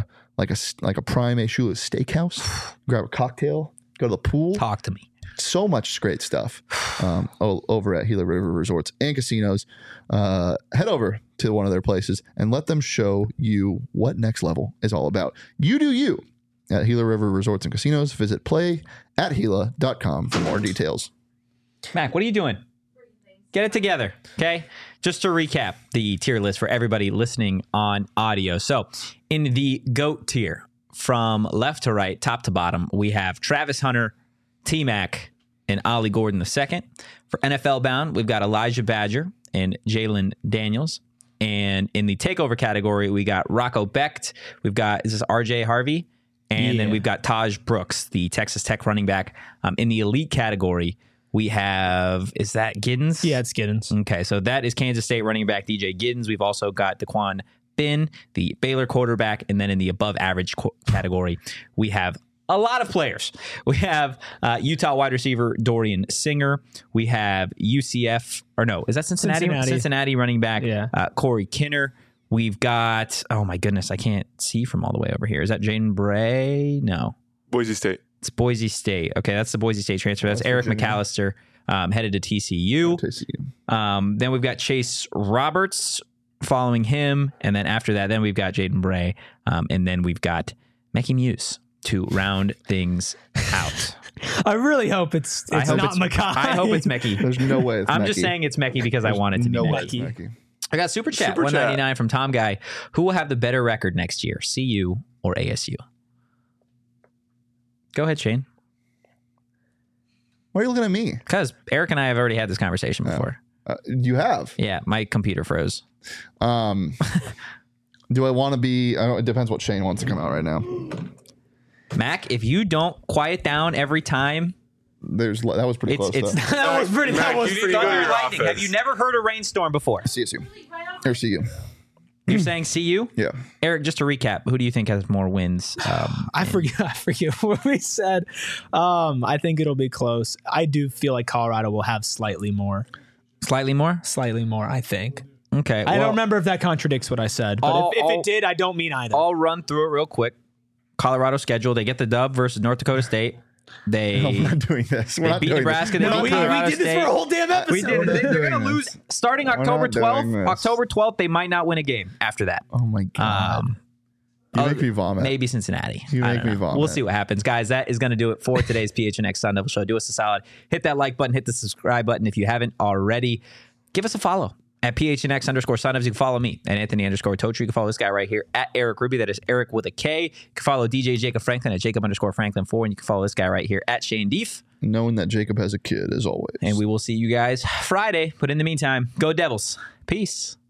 prime Shula steakhouse, grab a cocktail, go to the pool. Talk to me. So much great stuff over at Gila River Resorts and Casinos. Head over to one of their places and let them show you what next level is all about. You do you at Gila River Resorts and Casinos. Visit playatgila.com for more details. Mac, what are you doing? Get it together, okay? Just to recap the tier list for everybody listening on audio. So in the GOAT tier, from left to right, top to bottom, we have Travis Hunter, T-Mac, and Ollie Gordon II. For NFL bound, we've got Elijah Badger and Jalen Daniels. And in the takeover category, we got Rocco Becht. We've got, is this RJ Harvey? And then we've got Taj Brooks, the Texas Tech running back. In the elite category, we have, is that Giddens? Yeah, it's Giddens. Okay, so that is Kansas State running back DJ Giddens. We've also got Daquan Finn, the Baylor quarterback. And then in the above average category, we have a lot of players. We have Utah wide receiver Dorian Singer. We have UCF, or no, is that Cincinnati? Cincinnati running back Corey Kinner. We've got, oh my goodness, I can't see from all the way over here. Is that Jaden Bray? No. Boise State. It's Boise State. Okay, that's the Boise State transfer. That's Eric McAllister, headed to TCU. Then we've got Chase Roberts following him. And then after that, then we've got Jaden Bray. And then we've got Mekhi Muse to round things out. I really hope it's not Mekhi. I hope it's Mekhi. There's no way it's I'm Mekhi. just saying it's Mekhi because I want it to be Mekhi. I got Super Chat 199 from Tom Guy. Who will have the better record next year, CU or ASU? Go ahead, Shane. Why are you looking at me? Because Eric and I have already had this conversation before. You have? Yeah, my computer froze. Do I want to be? It depends what Shane wants to come out right now. Mac, if you don't quiet down every time. That was pretty close. That was pretty lightning. Have you never heard a rainstorm before? CSU. Or CU. You're saying CU? Yeah. Eric, just to recap, who do you think has more wins? I forget what we said. I think it'll be close. I do feel like Colorado will have slightly more. Slightly more? Slightly more, I think. Okay. I don't remember if that contradicts what I said, but if it did, I don't mean either. I'll run through it real quick. Colorado schedule, they get the dub versus North Dakota State. We're not doing this. They beat Nebraska. They beat Colorado State. We did this for a whole damn episode. We did. They're going to lose starting October 12th. October 12th, they might not win a game after that. Oh, my God. You make me vomit. Maybe Cincinnati. You make me vomit. We'll see what happens. Guys, that is going to do it for today's PHNX Sun Devil Show. Do us a solid. Hit that like button. Hit the subscribe button if you haven't already. Give us a follow at PHNX_Sun Devs. You can follow me at Anthony_Totri. You can follow this guy right here at Eric Ruby. That is Eric with a K. You can follow DJ Jacob Franklin at Jacob_Franklin4. And you can follow this guy right here at Shane Deef. Knowing that Jacob has a kid, as always. And we will see you guys Friday. But in the meantime, go Devils. Peace.